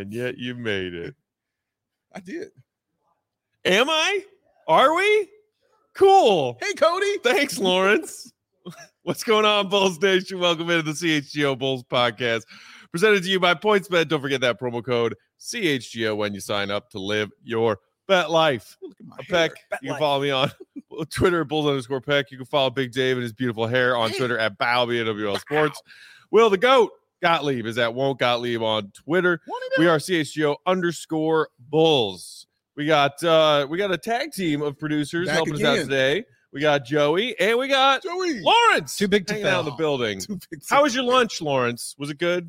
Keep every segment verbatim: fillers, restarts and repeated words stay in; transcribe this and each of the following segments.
And yet you made it. I did. Am I? Are we? Cool. Hey, Cody. Thanks, Lawrence. What's going on, Bulls Nation? Welcome into the C H G O Bulls podcast, presented to you by PointsBet. Don't forget that promo code C H G O when you sign up to live your bet life. Look at my Peck, hair. you can follow me on Twitter at Bulls underscore Peck. You can follow Big Dave and his beautiful hair on Hey. Twitter at Bow B A W L Sports. Will the Goat Gottlieb is at Won't Gottlieb on Twitter. We are C H G O underscore Bulls. We got uh, we got a tag team of producers Back helping us again. out today. We got Joey and we got Joey. Lawrence. Too big to hanging out fail. in the building. Too big to- How was your lunch, Lawrence? Was it good?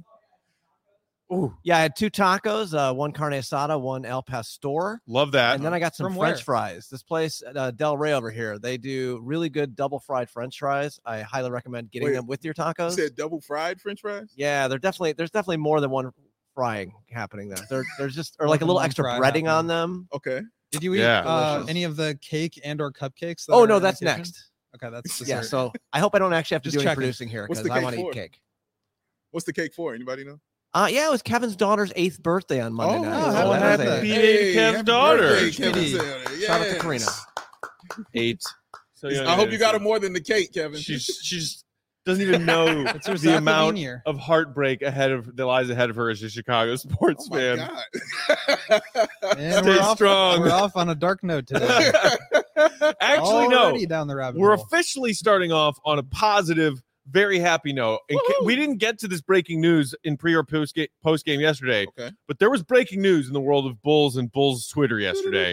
Ooh, Yeah, I had two tacos, uh, one carne asada, one El Pastor, love that. and then I got some From French where? fries. This place, uh, Del Rey over here, they do really good double fried French fries. I highly recommend getting Wait, them with your You tacos. said double fried French fries? Yeah, they're definitely there's definitely more than one frying happening there. There, there's just or like a More than little one extra fry breading on happening. them. Okay. Did you eat Yeah. uh, Delicious. any of the cake and or cupcakes? that Oh are no, in that's the kitchen? next. Okay, that's Yeah, dessert. so I hope I don't actually have to Just do any checking. producing here What's because the I cake want to for? eat cake. What's the cake for? Anybody know? Uh, yeah, it was Kevin's daughter's eighth birthday on Monday Oh, night. oh, so happy that was birthday. a- Be- Belated Kev's happy daughter. birthday, Kevin Sweetie. Saylor. Shout out to Yes. Karina. Eight. So young I hope and you got her innocent. more than the cake, Kevin. She's she's doesn't even know It's her the Zach amount Levine year. of heartbreak ahead of that lies ahead of her as a Chicago sports Oh my fan. God. And Stay we're off, strong. We're off on a dark note today. Actually, Already no. down the rabbit We're hole. officially starting off on a positive, very happy note. And ca- Woohoo! we didn't get to this breaking news in pre or post game, post game yesterday, Okay. but there was breaking news in the world of Bulls and Bulls Twitter yesterday.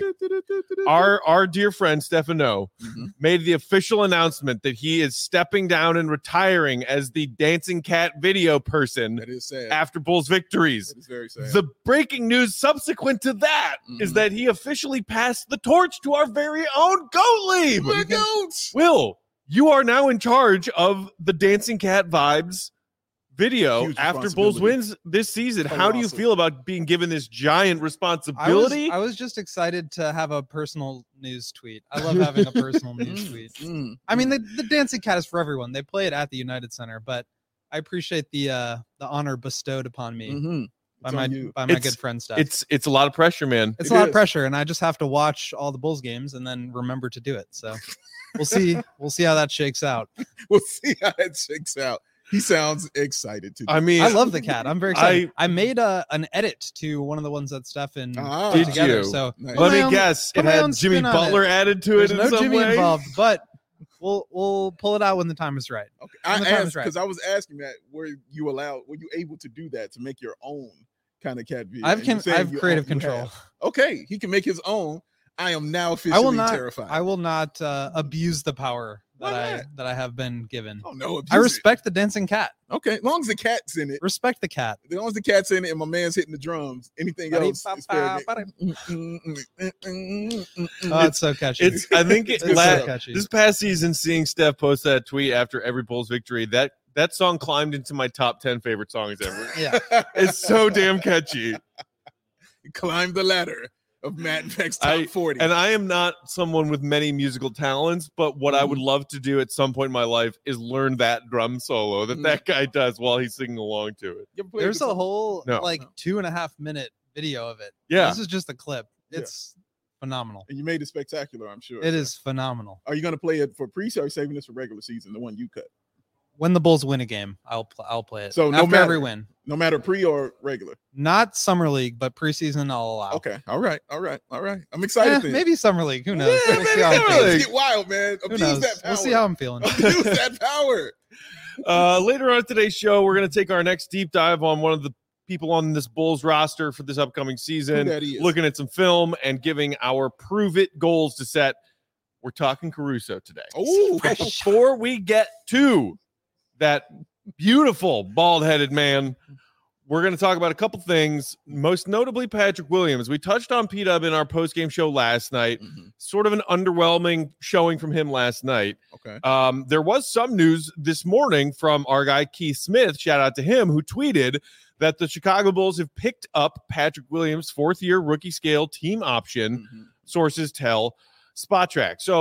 Our our dear friend Stefano Mhm. made the official announcement that he is stepping down and retiring as the dancing cat video person That is sad. after Bulls victories. That is very sad. The breaking news subsequent to that is Mhm. that he officially passed the torch to our very own Gottlieb. We're goats. Will, you are now in charge of the Dancing Cat Vibes video Huge after Bulls responsibility. wins this season. How do you Colossal. feel about being given this giant I was, responsibility? I was just excited to have a personal news tweet. I love having a personal news Mm, tweet. mm, I mean, mm. the, the dancing cat is for everyone. They play it at the United Center, but I appreciate the uh, the honor bestowed upon me Mhm. by It's my on you. by my It's- good friend Steph. it's it's a lot of pressure, man. It's It a lot is. of pressure, and I just have to watch all the Bulls games and then remember to do it. So we'll see. We'll see how that shakes out. We'll see how it shakes out. He sounds excited to do I mean, I love the cat. I'm very excited. I- I, made a, an edit to one of the ones that Stefan Ah. put Did together. you? So Nice. put let my me own- guess. It put my had own Jimmy spin on Butler it. added to There's it in no some Jimmy way. involved, but we'll we'll pull it out when the time is right. Okay. I the time is asked right. because I was asking that were you allowed, were you able to do that to make your own kind of cat video? I've And you're can, saying I have you creative own- you control. have. Okay, he can make his own. I am now officially I will not. terrified. I will not uh, abuse the power that Why I not? that I have been given. Oh no, I abuse it. respect the dancing cat. Okay, as long as the cat's in it, Respect the cat. as long as the cat's in it, and my man's hitting the drums, anything else is fair game. Oh, it's so catchy. It's. I think it, It's so la- catchy. this past season, seeing Steph post that tweet after every Bulls victory, that that song climbed into my top ten favorite songs ever. yeah. It's so damn catchy. Climb the ladder of Matt Beck's top I- forty. And I am not someone with many musical talents, but what I would Mm-hmm. love to do at some point in my life is learn that drum solo that Mm. that guy does while he's singing along to it. You ever played There's the a song? whole No. like two and a half minute video of it. Yeah. This is just a clip. Yeah. It's phenomenal. and you made it spectacular, I'm sure. It is phenomenal. Are you going to play it for pre or are you saving this for regular season, the one you cut? When the Bulls win a game, I'll pl- I'll play it. So no after matter- every win, No matter pre or regular. not summer league, but preseason I'll allow. Okay. All right. All right. All right. I'm excited. Eh, then. maybe summer league. Who knows? Yeah, we'll see maybe how I'm summer feeling. league. Let's get wild, man. Who Abuse knows? that power. We'll see how I'm feeling. Abuse that power. Uh, later on today's show, we're going to take our next deep dive on one of the people on this Bulls roster for this upcoming Who season, that is. looking at some film and giving our prove it goals to set. We're talking Caruso today. Oh, But before we get to that beautiful bald headed man, we're going to talk about a couple things, most notably Patrick Williams. We touched on P-Dub in our post-game show last night. Mhm. Sort of an underwhelming showing from him last night. Okay. Um, there was some news this morning from our guy Keith Smith, shout out to him, who tweeted that the Chicago Bulls have picked up Patrick Williams' fourth-year rookie scale team option, Mhm. sources tell Spot Track. So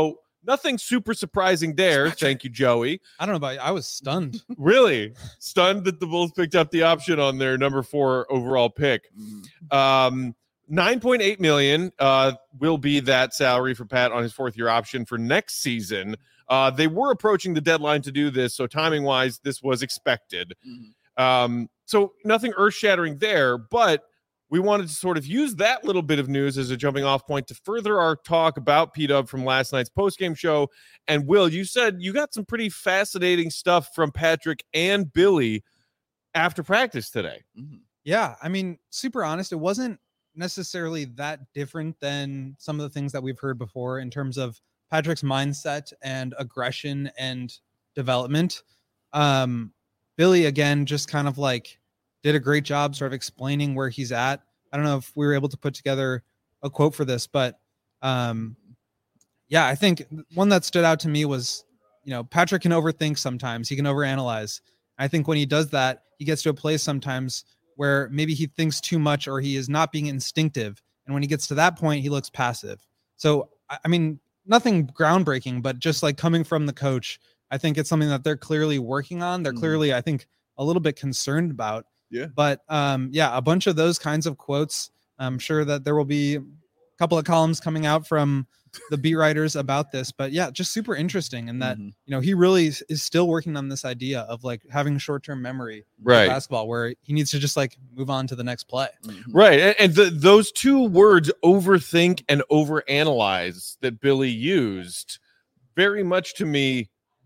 nothing super surprising there. Thank you, Joey. I don't know about you. I was stunned. Really stunned that the Bulls picked up the option on their number four overall pick. Mhm. Um, nine point eight million uh, will be that salary for Pat on his fourth year option for next season. Uh, they were approaching the deadline to do this, so timing wise, this was expected. Mhm. Um, so nothing earth shattering there, but we wanted to sort of use that little bit of news as a jumping off point to further our talk about P-Dub from last night's postgame show. And Will, you said you got some pretty fascinating stuff from Patrick and Billy after practice today. Mhm. Yeah, I mean, super honest, it wasn't necessarily that different than some of the things that we've heard before in terms of Patrick's mindset and aggression and development. Um, Billy, again, just kind of like did a great job sort of explaining where he's at. I don't know if we were able to put together a quote for this, but um, yeah, I think one that stood out to me was, you know, Patrick can overthink sometimes. He can overanalyze. I think when he does that, he gets to a place sometimes where maybe he thinks too much or he is not being instinctive. And when he gets to that point, he looks passive. So, I I mean, nothing groundbreaking, but just like coming from the coach, I think it's something that they're clearly working on. They're Mhm. clearly, I think, a little bit concerned about. Yeah. But um, yeah, a bunch of those kinds of quotes. I'm sure that there will be a couple of columns coming out from the beat writers about this. But yeah, just super interesting. And that, Mhm. you know, he really is, is still working on this idea of like having short-term memory of Right. basketball where he needs to just like move on to the next play. Mhm. Right. And, and the, those two words, overthink and overanalyze, that Billy used, very much to me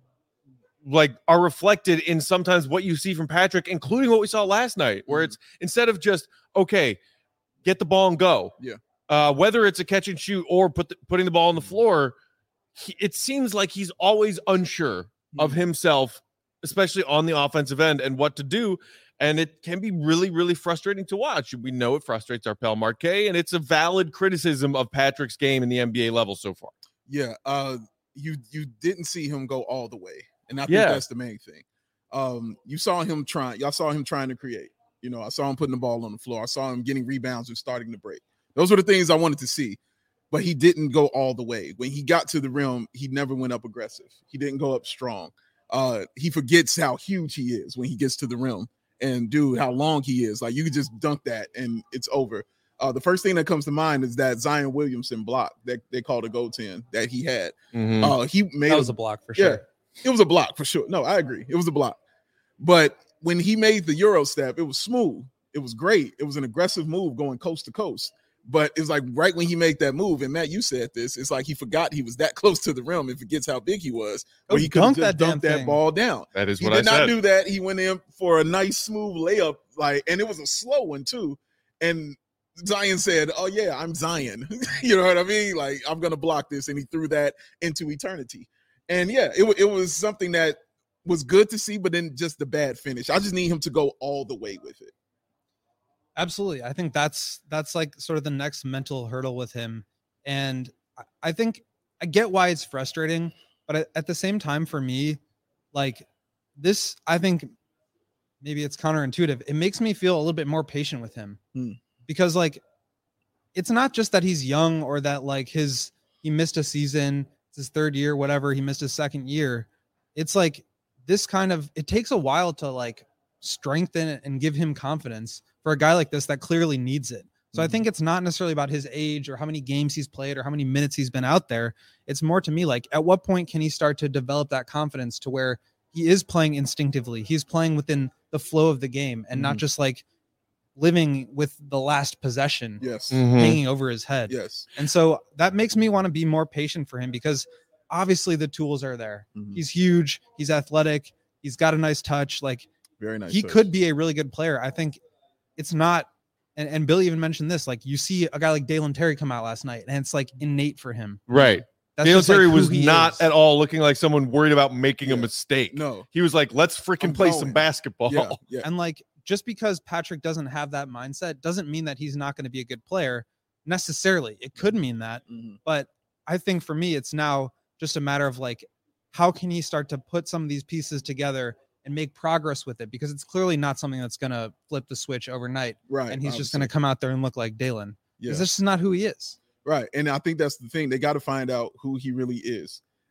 like are reflected in sometimes what you see from Patrick, including what we saw last night, where Mhm. it's instead of just, okay, get the ball and go. Yeah. Uh, whether it's a catch and shoot or put the, putting the ball on the floor, he, it seems like he's always unsure of Mhm. himself, especially on the offensive end and what to do. And it can be really, really frustrating to watch. We know it frustrates our pal Marquet, and it's a valid criticism of Patrick's game in the N B A level so far. Yeah, uh, you you didn't see him go all the way, and I think Yeah. that's the main thing. Um, you saw him trying. Y'all saw him trying to create. You know, I saw him putting the ball on the floor. I saw him getting rebounds and starting to break. Those were the things I wanted to see, but he didn't go all the way. When he got to the rim, he never went up aggressive. He didn't go up strong. Uh, he forgets how huge he is when he gets to the rim, and dude, how long he is. Like you could just dunk that and it's over. Uh, the first thing that comes to mind is that Zion Williamson block that they called a goaltend that he had. Mhm. Uh, he made That a- was a block for yeah, sure. it was a block for sure. No, I agree. It was a block. But when he made the Euro step, it was smooth. It was great. It was an aggressive move going coast to coast. But it's like right when he made that move, and Matt, you said this, it's like he forgot he was that close to the rim and forgets how big he was. Or Oh, he could dunk just that damn dunk that thing. ball down. That is He what did I not said. do that. He went in for a nice smooth layup, like, and it was a slow one too. And Zion said, "Oh yeah, I'm Zion." You know what I mean? Like I'm gonna block this, and he threw that into eternity. And yeah, it wa- it was something that was good to see, but then just the bad finish. I just need him to go all the way with it. Absolutely. I think that's that's like sort of the next mental hurdle with him. And I- I think I get why it's frustrating, but at, at the same time for me, like this, I think maybe it's counterintuitive. It makes me feel a little bit more patient with him. Hmm. Because like it's not just that he's young or that like his he missed a season, it's his third year, whatever, he missed his second year. It's like this kind of it takes a while to like strengthen it and give him confidence for a guy like this that clearly needs it. So I Mhm. think it's not necessarily about his age or how many games he's played or how many minutes he's been out there. It's more to me like at what point can he start to develop that confidence to where he is playing instinctively, he's playing within the flow of the game and not Mhm. just like living with the last possession Yes. Mhm. hanging over his head. Yes. And so that makes me want to be more patient for him because obviously the tools are there. Mhm. He's huge, he's athletic, he's got a nice touch. Like Very nice. he touch. could be a really good player. I think it's not, and, and Billy even mentioned this, like you see a guy like Dalen Terry come out last night and it's like innate for him. Right. That's Dale just, like, Terry who was he not is. at all looking like someone worried about making a Yeah. mistake. No. He was like, let's freaking I'm play going. some basketball. Yeah. Yeah. And like just because Patrick doesn't have that mindset doesn't mean that he's not going to be a good player necessarily. It could mean that, Mhm. but I think for me it's now just a matter of like how can he start to put some of these pieces together and make progress with it because it's clearly not something that's going to flip the switch overnight Right. and he's just going obviously. to come out there and look like Dalen. Yeah. Because this is not who he is. Right. And I think that's the thing. They got to find out who he really is.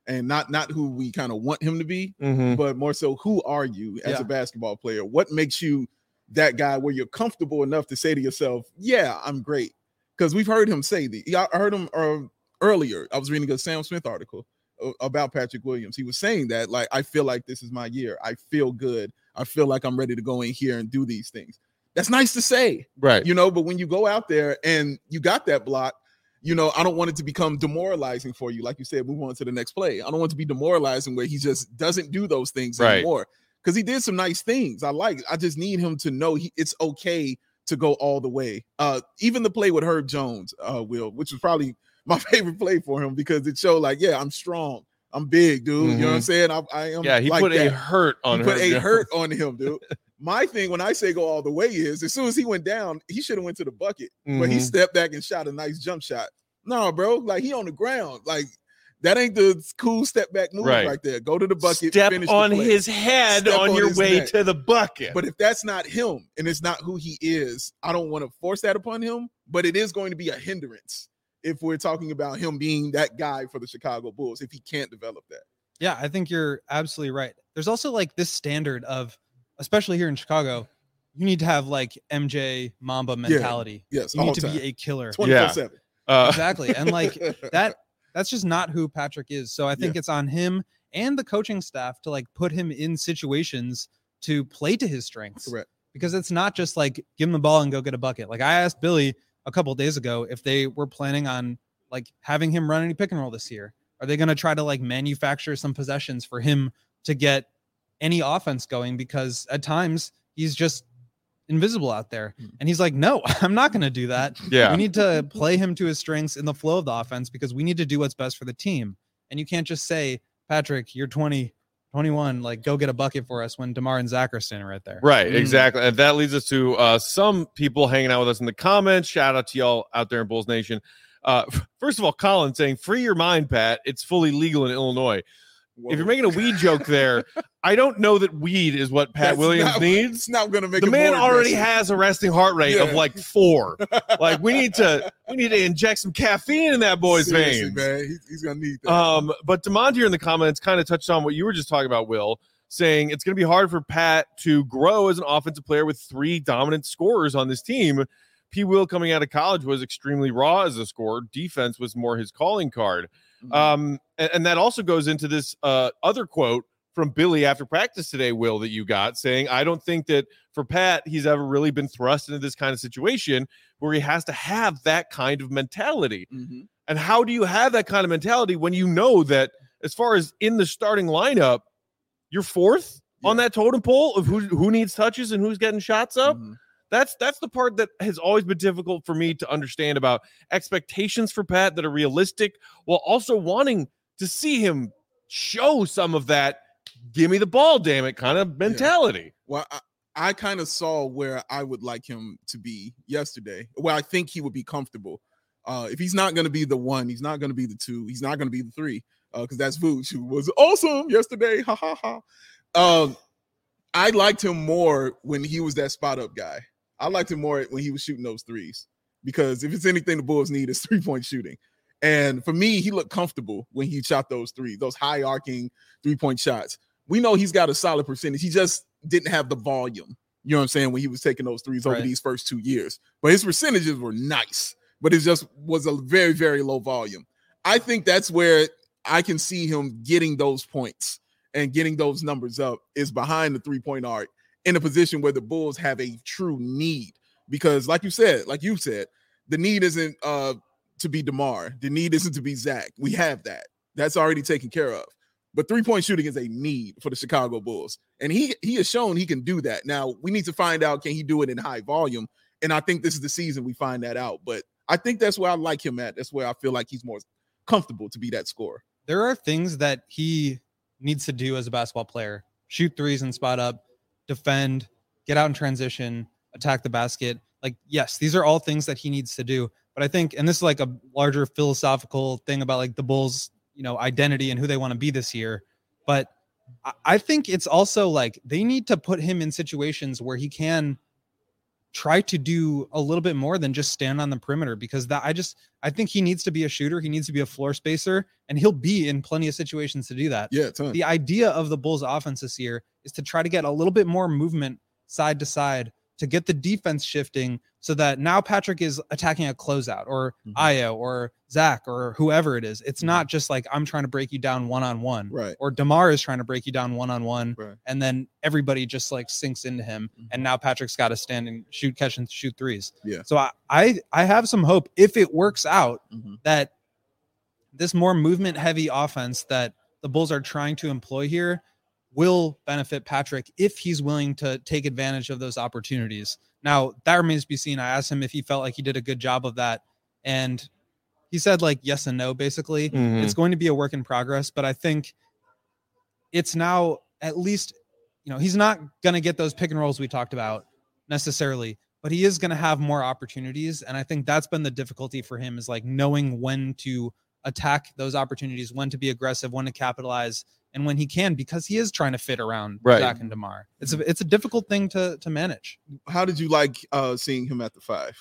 and not not who we kind of want him to be, Mhm. but more so who are you as Yeah. a basketball player? What makes you that guy where you're comfortable enough to say to yourself, yeah, I'm great? Because we've heard him say the I heard him uh, earlier. I was reading a Sam Smith article uh, about Patrick Williams. He was saying that, like, I feel like this is my year. I feel good. I feel like I'm ready to go in here and do these things. That's nice to say, Right. you know, but when you go out there and you got that block, you know, I don't want it to become demoralizing for you. Like you said, move on to the next play. I don't want it to be demoralizing where he just doesn't do those things Right. anymore. Because he did some nice things. I like it. I just need him to know he, it's okay to go all the way. Uh, even the play with Herb Jones, uh, Will, which was probably my favorite play for him because it showed like, yeah, I'm strong. I'm big, dude. You know what I'm saying? I, I am. Yeah, he like put that. a hurt on He her. put a hurt on him, dude. My thing when I say go all the way is as soon as he went down, he should have went to the bucket, but he Mhm. stepped back and shot a nice jump shot. No, bro, like he on the ground. Like that ain't the cool step back move Right. right, there. Go to the bucket, Step finish the on play. his head Step on on your his way neck. to the bucket. But if that's not him and it's not who he is, I don't want to force that upon him. But it is going to be a hindrance if we're talking about him being that guy for the Chicago Bulls, if he can't develop that. Yeah, I think you're absolutely right. There's also like this standard of, especially here in Chicago, you need to have like M J Mamba mentality. Yes, You all need to time. be a killer. twenty-four seven. uh, Exactly. And like that, that's just not who Patrick is. So I think it's on him and the coaching staff to like put him in situations to play to his strengths. Correct. Because it's not just like give him the ball and go get a bucket. Like I asked Billy a couple of days ago if they were planning on like having him run any pick and roll this year. Are they going to try to like manufacture some possessions for him to get any offense going? Because at times he's just invisible out there. And he's like, no, I'm not going to do that. yeah. We need to play him to his strengths in the flow of the offense because we need to do what's best for the team. And you can't just say, Patrick, you're twenty, twenty-one, like go get a bucket for us when DeMar and Zach are standing right there. Right, Mm. exactly. And that leads us to uh, some people hanging out with us in the comments. Shout out to y'all out there in Bulls Nation. Uh, first of all, Colin saying, free your mind, Pat. It's fully legal in Illinois. Whoa. If you're making a weed joke there, I don't know that weed is what Pat That's Williams not- needs. It's not going to make The it man more already aggressive. has a resting heart rate of Yeah. like four. Like we need to we need to inject some caffeine in that boy's Seriously, veins. man. He's, he's going to need that. Um, but Demond here in the comments kind of touched on what you were just talking about, Will, saying it's going to be hard for Pat to grow as an offensive player with three dominant scorers on this team. P. Will coming out of college was extremely raw as a scorer. Defense was more his calling card. Mhm. Um, and, and that also goes into this uh, other quote from Billy after practice today, Will, that you got saying, I don't think that for Pat, he's ever really been thrust into this kind of situation where he has to have that kind of mentality. Mhm. And how do you have that kind of mentality when you know that as far as in the starting lineup, you're fourth on Yeah. that totem pole of who, who needs touches and who's getting shots up? Mhm. That's that's the part that has always been difficult for me to understand about expectations for Pat that are realistic while also wanting to see him show some of that give me the ball, damn it, kind of mentality. Well, I, I kind of saw where I would like him to be yesterday, where I think he would be comfortable. Uh, if he's not going to be the one, he's not going to be the two, he's not going to be the three, because uh, that's Vooch, who was awesome yesterday. Ha ha ha. Um, I liked him more when he was that spot up guy. I liked him more when he was shooting those threes, because if it's anything the Bulls need, it's three point shooting. And for me, he looked comfortable when he shot those three, those high arcing three point shots. We know he's got a solid percentage. He just didn't have the volume, you know what I'm saying, when he was taking those threes over Right. these first two years. But his percentages were nice, but it just was a very, very low volume. I think that's where I can see him getting those points and getting those numbers up is behind the three-point arc in a position where the Bulls have a true need. Because like you said, like you said, the need isn't uh, to be DeMar. The need isn't to be Zach. We have that. That's already taken care of. But three-point shooting is a need for the Chicago Bulls. And he he has shown he can do that. Now, we need to find out, can he do it in high volume? And I think this is the season we find that out. But I think that's where I like him at. That's where I feel like he's more comfortable to be that scorer. There are things that he needs to do as a basketball player: shoot threes and spot up, defend, get out in transition, attack the basket. Like, yes, these are all things that he needs to do. But I think, and this is like a larger philosophical thing about like the Bulls, you know, identity and who they want to be this year. But I- I think it's also like they need to put him in situations where he can try to do a little bit more than just stand on the perimeter, because that I just I think he needs to be a shooter. He needs to be a floor spacer, and he'll be in plenty of situations to do that. Yeah, ton. The idea of the Bulls offense this year is to try to get a little bit more movement side to side to get the defense shifting, so that now Patrick is attacking a closeout, or Mhm. Io or Zach or whoever it is. It's Mhm. not just like I'm trying to break you down one-on-one, Right. or DeMar is trying to break you down one-on-one, Right. and then everybody just like sinks into him. Mhm. And now Patrick's got to stand and shoot, catch, and shoot threes. Yeah. So I, I, I have some hope, if it works out, Mhm. that this more movement heavy offense that the Bulls are trying to employ here will benefit Patrick if he's willing to take advantage of those opportunities. Now, that remains to be seen. I asked him if he felt like he did a good job of that, and he said like yes and no, basically. Mhm. It's going to be a work in progress, but I think it's now at least, you know, he's not going to get those pick and rolls we talked about necessarily, but he is going to have more opportunities. And I think that's been the difficulty for him, is like knowing when to attack those opportunities, when to be aggressive, when to capitalize, and when he can, because he is trying to fit around Right. Zach and DeMar. It's a, it's a difficult thing to, to manage. How did you like uh seeing him at the five?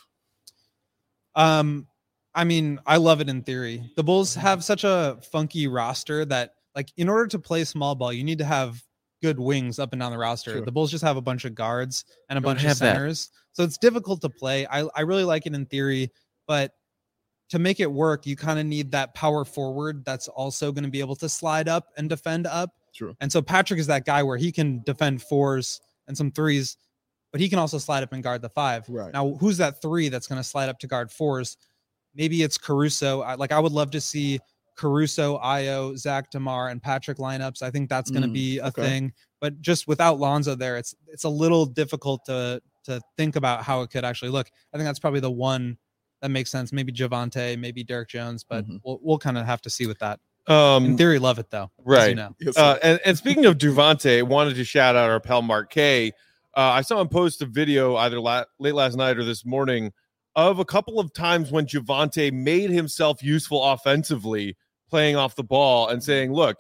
Um, I mean, I love it in theory. The Bulls have such a funky roster that, like, in order to play small ball, you need to have good wings up and down the roster. Sure. The Bulls just have a bunch of guards and a Don't bunch of have that. centers, so it's difficult to play. I I really like it in theory, but to make it work, you kind of need that power forward that's also going to be able to slide up and defend up. True. And so Patrick is that guy where he can defend fours and some threes, but he can also slide up and guard the five. Right. Now, who's that three that's going to slide up to guard fours? Maybe it's Caruso. I, like I would love to see Caruso, Io, Zach, DeMar, and Patrick lineups. I think that's going to Mm, be a okay. thing. But just without Lonzo there, it's it's a little difficult to to think about how it could actually look. I think that's probably the one that makes sense. Maybe Javante, maybe Derek Jones, but Mhm. we'll we'll kind of have to see with that. Um, In theory, love it though. as you right. know. Yes, Uh, sir. and, and speaking of Duvante, wanted to shout out our pal Mark K. Uh, I saw him post a video either la- late last night or this morning of a couple of times when Javante made himself useful offensively, playing off the ball and saying, look,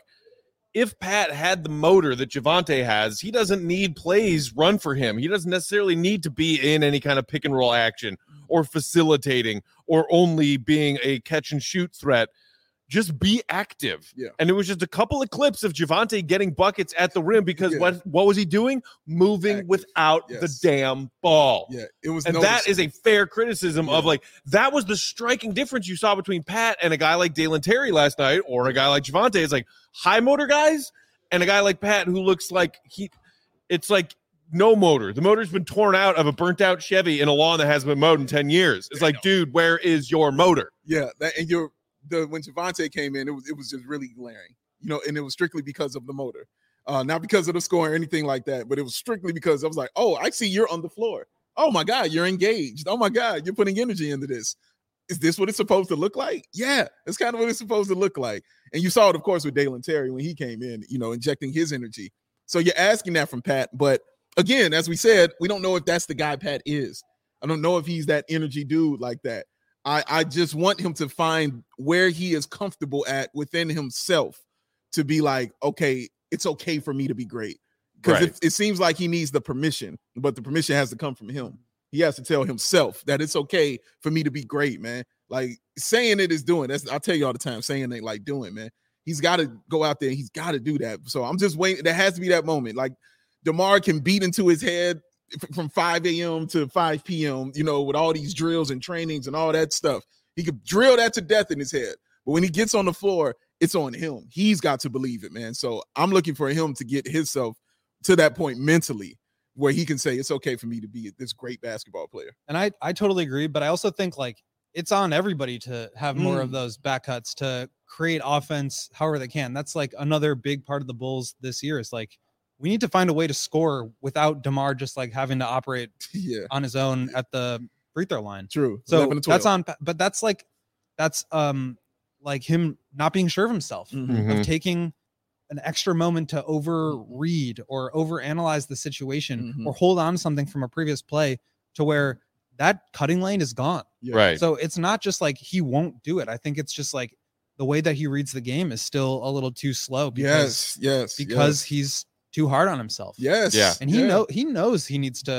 if Pat had the motor that Javante has, he doesn't need plays run for him. He doesn't necessarily need to be in any kind of pick and roll action or facilitating or only being a catch and shoot threat. Just be active. Yeah. And it was just a couple of clips of Javante getting buckets at the rim because Yeah. what what was he doing? Moving Active. without Yes. the damn ball. Yeah, it was And that is a fair criticism of Yeah. like that was the striking difference you saw between Pat and a guy like Dalen Terry last night, or a guy like Javante. It's like high motor guys and a guy like Pat who looks like he it's like no motor. The motor's been torn out of a burnt out Chevy in a lawn that hasn't been mowed in ten years. It's like, dude, where is your motor? Yeah, that, and you're the when Javante came in, it was it was just really glaring, you know, and it was strictly because of the motor, uh, not because of the score or anything like that, but it was strictly because I was like, oh, I see you're on the floor. Oh my God, you're engaged. Oh my God, you're putting energy into this. Is this what it's supposed to look like? Yeah, it's kind of what it's supposed to look like. And you saw it, of course, with Dalen Terry when he came in, you know, injecting his energy. So you're asking that from Pat, but again, as we said, we don't know if that's the guy Pat is. I don't know if he's that energy dude like that. I, I just want him to find where he is comfortable at within himself to be like, okay, it's okay for me to be great. Because Right. it, it seems like he needs the permission, but the permission has to come from him. He has to tell himself that it's okay for me to be great, man. Like saying it is doing. That's I tell you all the time, saying it like doing, man. He's got to go out there. He's got to do that. So I'm just waiting. There has to be that moment. Like DeMar can beat into his head from five a.m. to five p.m., you know, with all these drills and trainings and all that stuff. He could drill that to death in his head. But when he gets on the floor, it's on him. He's got to believe it, man. So I'm looking for him to get himself to that point mentally where he can say, it's okay for me to be this great basketball player. And I, I totally agree, but I also think like it's on everybody to have more of Mm. those back cuts to create offense however they can. That's like another big part of the Bulls this year is like we need to find a way to score without DeMar just like having to operate Yeah, on his own at the free throw line. true. So eleven to that's twelve. on, but that's like that's um like him not being sure of himself, Mhm. Mhm. of taking an extra moment to overread or overanalyze the situation Mhm. or hold on to something from a previous play to where that cutting lane is gone. Yeah. Right. So it's not just like he won't do it. I think it's just like the way that he reads the game is still a little too slow because Yes, yes, because he's too hard on himself. yes, Yeah. And he yeah. know he knows he needs to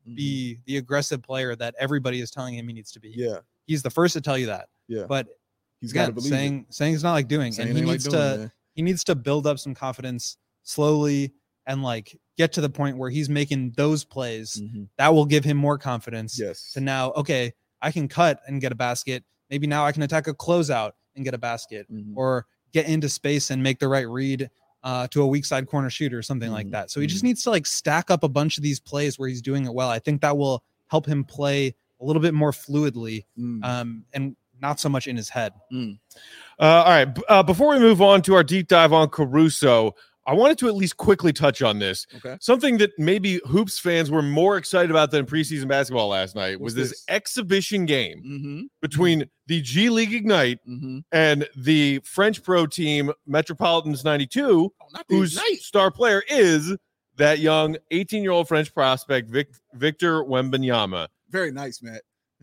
be the aggressive player that everybody is telling him he needs to be. Yeah. He's the first to tell you that. Yeah. But He's got to again, believe saying saying it's not like doing, Saying and he ain't like needs doing, to man. he needs to build up some confidence slowly and like get to the point where he's making those plays it. Mhm. that will give him more confidence. Yes. To now, okay, I can cut and get a basket. Maybe now I can attack a closeout and get a basket, Mhm. or get into space and make the right read uh, to a weak side corner shooter or something like Mhm. that. So he just needs to like stack up a bunch of these plays where he's doing it well. I think that will help him play a little bit more fluidly Mm. um, and not so much in his head. Mm. Uh, all right. b- Uh, before we move on to our deep dive on Caruso, I wanted to at least quickly touch on this. Okay. Something that maybe Hoops fans were more excited about than preseason basketball last night was What's this, this? exhibition game Mm-hmm. between the G League Ignite Mm-hmm. and the French pro team Metropolitans ninety-two, Oh, not the whose Ignite. star player is that young eighteen-year-old French prospect, Vic- Victor Wembanyama. Very nice, Matt.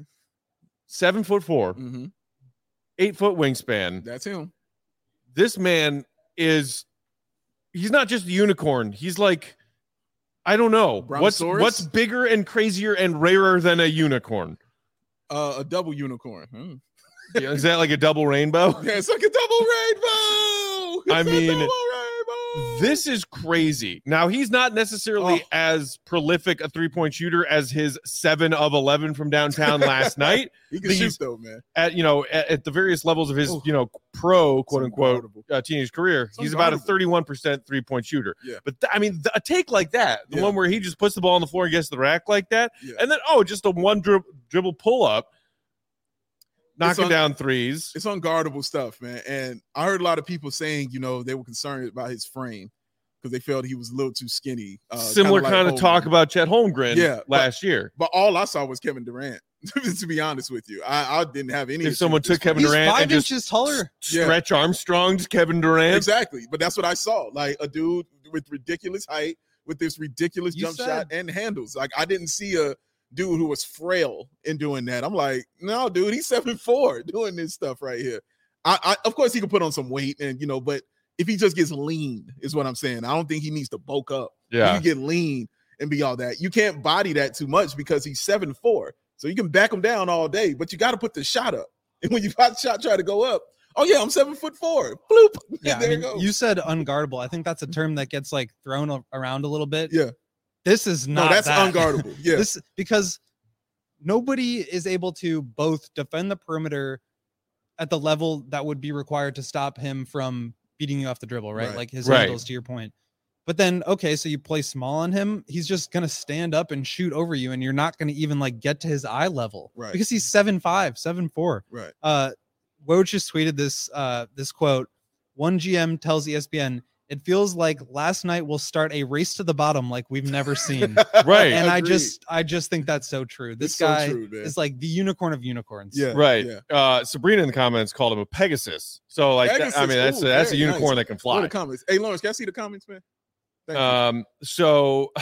Seven foot four, Mm-hmm. eight foot wingspan. That's him. This man is, he's not just a unicorn. He's like, I don't know. What's Brontosaurus? what's bigger and crazier and rarer than a unicorn? Uh, a double unicorn. Hmm. Yeah, is that like a double rainbow? Yeah, it's like a double rainbow. It's I a mean, double rainbow. This is crazy. Now, he's not necessarily Oh. as prolific a three-point shooter as his seven of eleven from downtown last night. he can these- shoot though, man. At, you know, at, at the various levels of his, Oh. you know, pro, quote unquote, unguardable. uh, teenage career, It's he's about a unguardable. thirty-one percent three-point shooter. Yeah. But th- I mean, th- a take like that, the Yeah. one where he just puts the ball on the floor and gets to the rack like that, Yeah. and then, oh, just a one drib- dribble pull-up, knocking un- down threes. It's unguardable stuff, man. And I heard a lot of people saying, you know, they were concerned about his frame because they felt he was a little too skinny. Uh, Similar kinda kind like of talk Holmgren. about Chet Holmgren Yeah, but- last year. But all I saw was Kevin Durant. To be honest with you, I, I didn't have any. If issue someone with this took Kevin He's Durant five and just inches taller. Yeah. Stretch Armstrong's Kevin Durant. Exactly, but that's what I saw. Like a dude with ridiculous height, with this ridiculous You jump said- shot and handles. Like I didn't see a dude who was frail in doing that. I'm like, no, dude, he's seven four doing this stuff right here. I, I of course he could put on some weight and you know, but if he just gets lean, is what I'm saying. I don't think he needs to bulk up. Yeah. You get lean and be all that. You can't body that too much because he's seven four. So you can back him down all day, but you got to put the shot up. And when you got shot try to go up, oh yeah, I'm seven foot four. Bloop. Yeah, there I you mean, go. you said unguardable. I think that's a term that gets like thrown a- around a little bit. Yeah. This is No, not that's that. unguardable. Yeah. This because nobody is able to both defend the perimeter at the level that would be required to stop him from beating you off the dribble, right? Right. Like his Right. handles, to your point. But then, okay, so you play small on him. He's just gonna stand up and shoot over you, and you're not gonna even like get to his eye level, Right. Because he's seven five, seven four. Right. Uh, Woj just tweeted this uh this quote. One G M tells E S P N, "It feels like last night will start a race to the bottom like we've never seen." Right. And I Agreed. just I just think that's so true. This It's so guy true, man. is like the unicorn of unicorns. Yeah. Right. Yeah. Uh, Sabrina in the comments called him a Pegasus. So like, that- I Pegasus, mean, that's ooh, a, that's a very unicorn nice. that can What fly. are the comments? Hey, Lawrence, can I see the comments, man? Thank you. Um, so,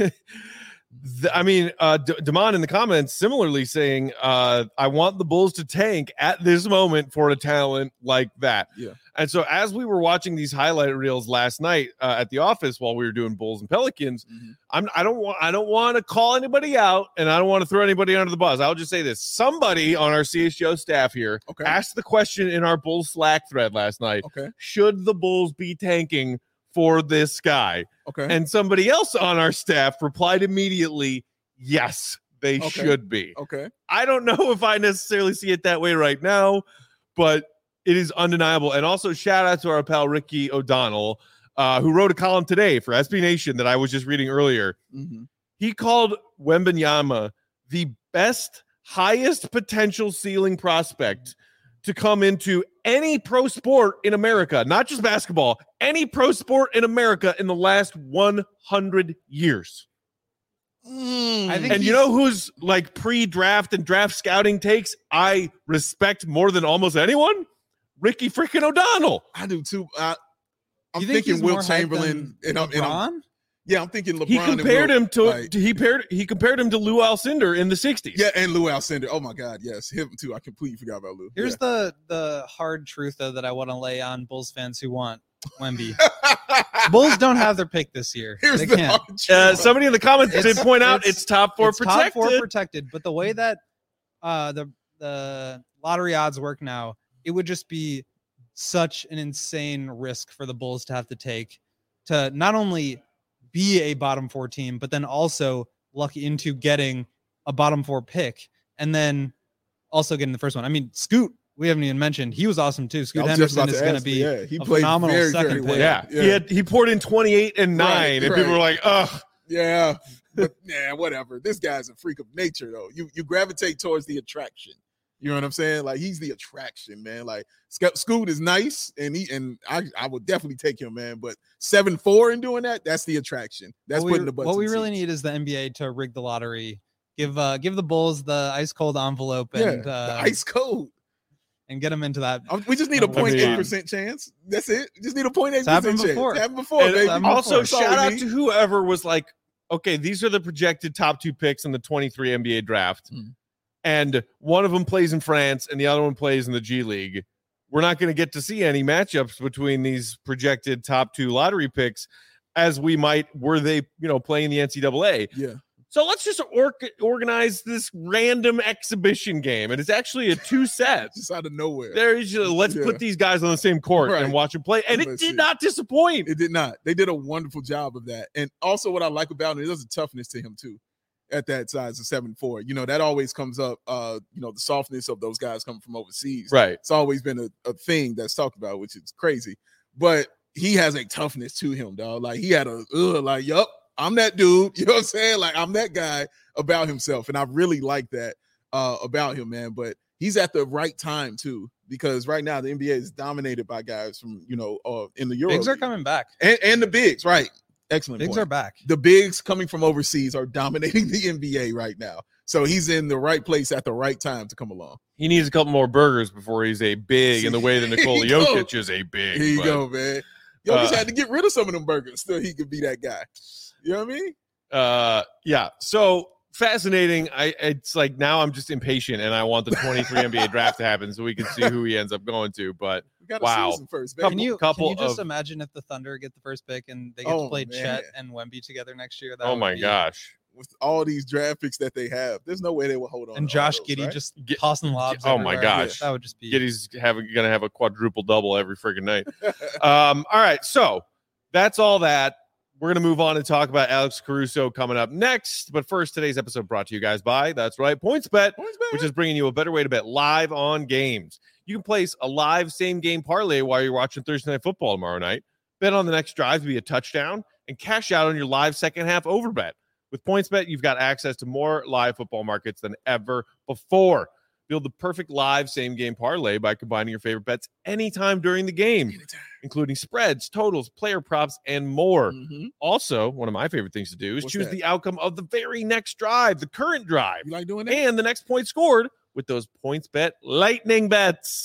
the, I mean, uh, D- Damon in the comments similarly saying, uh, I want the Bulls to tank at this moment for a talent like that. Yeah. And so, as we were watching these highlight reels last night uh, at the office while we were doing Bulls and Pelicans, Mhm. I'm I don't want I don't want to call anybody out, and I don't want to throw anybody under the bus. I'll just say this: somebody on our C H G O staff here Okay. asked the question in our Bulls Slack thread last night: Okay. should the Bulls be tanking for this guy? Okay. And somebody else on our staff replied immediately, yes, they Okay. should be. okay. I don't know if I necessarily see it that way right now, but it is undeniable. And also, shout out to our pal Ricky O'Donnell, uh, who wrote a column today for S B Nation that I was just reading earlier. Mhm. He called Wembanyama the best, highest potential ceiling prospect to come into any pro sport in America, not just basketball, any pro sport in America in the last one hundred years. I think And you know who's like pre-draft and draft scouting takes I respect more than almost anyone? Ricky freaking O'Donnell. I do too. I, I'm You think thinking he's Will more hyped Chamberlain, than and I'm, and I'm LeBron? yeah, I'm thinking LeBron. He and compared Will, him to like- he paired he compared him to Lou Alcindor in the sixties. yeah, and Lou Alcindor. Oh my God, yes, him too. I completely forgot about Lou. Here's yeah. the the hard truth though that I want to lay on Bulls fans who want Wemby. Bulls don't have their pick this year. Here's they the can't. hard Uh, truth. somebody in the comments did It's- point out it's- it's top four It's protected. top four protected, but the way that uh, the the lottery odds work now, it would just be such an insane risk for the Bulls to have to take to not only be a bottom four team, but then also luck into getting a bottom four pick and then also getting the first one. I mean, Scoot, we haven't even mentioned. He was awesome too. Scoot I was just Henderson about is to going to ask, be yeah, he a played phenomenal very, second very pick. well. yeah. Yeah. He had he poured in twenty-eight and nine, Right, and right. people were like, ugh. Yeah, but yeah, whatever. This guy's a freak of nature, though. You you gravitate towards the attraction. You know what I'm saying? Like he's the attraction, man. Like Sco- Scoot is nice, and he and I I would definitely take him, man. But seven four and doing that, that's the attraction. That's what putting we, the butts. what we in really seats. need is the N B A to rig the lottery. Give uh give the Bulls the ice cold envelope Yeah, and uh, the ice cold. and get them into that. Um, We just need a I point eight mean- percent chance. That's it. Just need a point eight It's happened percent chance. before. It's happened before, And baby. happened also, before. That's all shout we out need. to whoever was like, okay, these are the projected top two picks in the twenty-three N B A draft. Mm. And one of them plays in France and the other one plays in the G League. We're not going to get to see any matchups between these projected top two lottery picks as we might were they, you know, playing the N C double A. Yeah. So let's just or- organize this random exhibition game. And it's actually a two sets. Just out of nowhere. There is just, let's Yeah. put these guys on the same court Right. and watch them play. And it Let's did see. not disappoint. It did not. They did a wonderful job of that. And also what I like about it, there's a toughness to him too at that size of seven four. You know, that always comes up, uh, you know, the softness of those guys coming from overseas. Right. It's always been a, a thing that's talked about, which is crazy. But he has a toughness to him, dog. Like he had a ugh, like, yup, I'm that dude. You know what I'm saying? Like I'm that guy about himself. And I really like that uh about him, man. But he's at the right time too, because right now the N B A is dominated by guys from, you know, uh in the Euro. Bigs are League. coming back. And, and the bigs, right? Excellent. Bigs point. are back. The bigs coming from overseas are dominating the N B A right now. So he's in the right place at the right time to come along. He needs a couple more burgers before he's a big in the way that Here Nikola you go. Jokic is a big. Here you but, go, man. Yo, just uh, had to get rid of some of them burgers so he could be that guy. You know what I mean? Uh, yeah. So fascinating. I it's like now I'm just impatient and I want the twenty-three N B A draft to happen so we can see who he ends up going to. But We got Wow. a season first, baby. Couple- Can you couple can you just of- imagine if the Thunder get the first pick and they get Oh, to play man. Chet and Wemby together next year? That oh would my be- gosh. With all these draft picks that they have, there's no way they will hold on. And to all Josh those, Giddey right? just Get- tossing lobs. oh my everywhere. gosh. that would just be. Giddy's having gonna have a quadruple double every freaking night. Um, all right, so that's all that. We're gonna move on and talk about Alex Caruso coming up next. But first, today's episode brought to you guys by, that's right, PointsBet, Points, baby. which is bringing you a better way to bet live on games. You can place a live same game parlay while you're watching Thursday Night Football tomorrow night. Bet on the next drive to be a touchdown and cash out on your live second half overbet. With PointsBet, you've got access to more live football markets than ever before. Build the perfect live same game parlay by combining your favorite bets anytime during the game, Anytime. including spreads, totals, player props, and more. Mhm. Also, one of my favorite things to do is What's choose that? the outcome of the very next drive, the current drive, You like doing that? and the next point scored with those PointsBet lightning bets.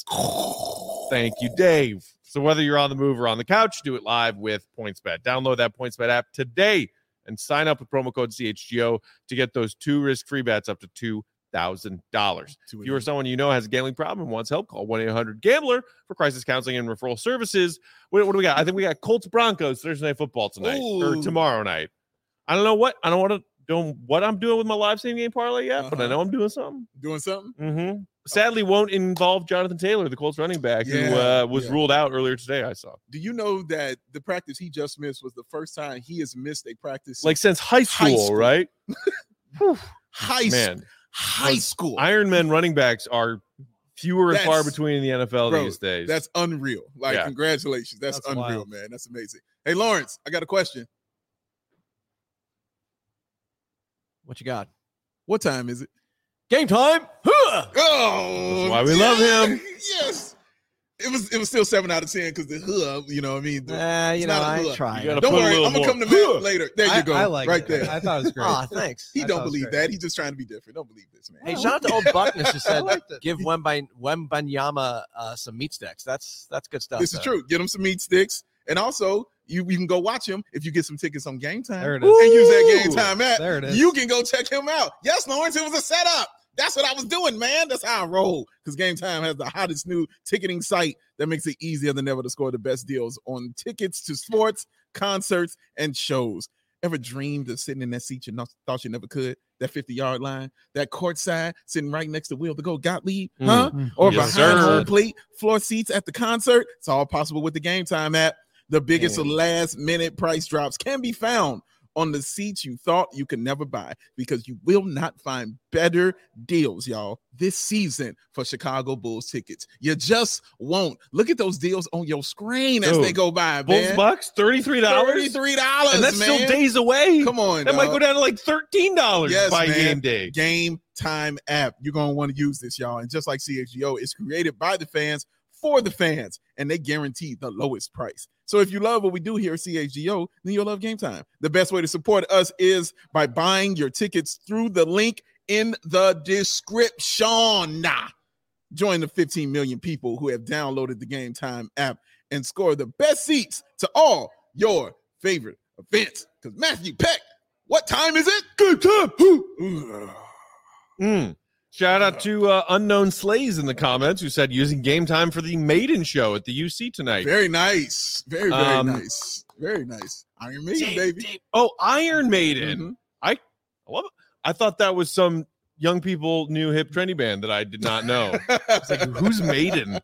Thank you, Dave. So whether you're on the move or on the couch, do it live with PointsBet. Download that PointsBet app today and sign up with promo code C H G O to get those two risk-free bets up to two thousand dollars. Two If you or someone you know has a gambling problem and wants help, call one eight hundred gambler for crisis counseling and referral services. What, what do we got? I think we got Colts Broncos Thursday Night Football tonight or Ooh. tomorrow night. I don't know what I don't want to do what I'm doing with my live same game parlay yet, but I Uh-huh. know I'm doing something. Doing something? Mm-hmm. Sadly, won't involve Jonathan Taylor, the Colts running back, who Yeah, uh, was yeah. ruled out earlier today. I saw Do you know that the practice he just missed was the first time he has missed a practice like since high school, High school. right? Whew. high Man, high Those school? Ironman running backs are fewer and far That's- between in the N F L bro, these days. That's unreal. Like, Yeah. congratulations. That's, That's unreal, wild. man. That's amazing. Hey, Lawrence, I got a question. What you got? What time is it? Game time. Huh! Oh, That's why we love him. Yes. It was it was still seven out of ten because the huh, you know what I mean? The- Uh, you it's know, not a I hood. tried. You gotta Don't put a worry, little I'm gonna more come to huh. Matt later. There I, you go. I like right it. there. I thought it was great. Aw, thanks. He I don't thought it was believe great. that. He's just trying to be different. Don't believe this, man. Hey, shout out to old Buckness who I said liked it. give Wemby Wembanyama uh, some meat sticks. That's that's good stuff. This is though. true. Get him some meat sticks. And also, you, you can go watch him if you get some tickets on Game Time. There it And is. use that Game Ooh. Time app. There it is. You can go check him out. Yes, Lawrence, it was a setup. That's what I was doing, man. That's how I roll. Because Game Time has the hottest new ticketing site that makes it easier than ever to score the best deals on tickets to sports, concerts, and shows. Ever dreamed of sitting in that seat you not, thought you never could? That fifty-yard line, that courtside, sitting right next to Will to go Gottlieb, Mm. huh? Or Yes, behind sir. home plate, floor seats at the concert. It's all possible with the Game Time app. The biggest Mm. last-minute price drops can be found on the seats you thought you could never buy because you will not find better deals, y'all, this season for Chicago Bulls tickets. You just won't. Look at those deals on your screen as Dude, they go by, Bulls man. Bucks, thirty-three dollars. thirty-three dollars, And that's man. still days away. Come on, That might dog. go down to like thirteen dollars Yes, by man. game day. Game Time app. You're going to want to use this, y'all. And just like C X G O, it's created by the fans for the fans, and they guarantee the lowest price. So if you love what we do here at C H G O, then you'll love Game Time. The best way to support us is by buying your tickets through the link in the description. Nah. Join the fifteen million people who have downloaded the Game Time app and score the best seats to all your favorite events. Because Matthew Peck, what time is it? Good time. Ooh. Mm. Shout out to uh, Unknown Slays in the comments who said using Game Time for the Maiden show at the U C tonight. Very nice. Very, very Um, nice. Very nice. Iron Maiden, Dave, baby. Dave. Oh, Iron Maiden. Mhm. I love it. I thought that was some young people new hip trendy band that I did not know. It's like, who's Maiden?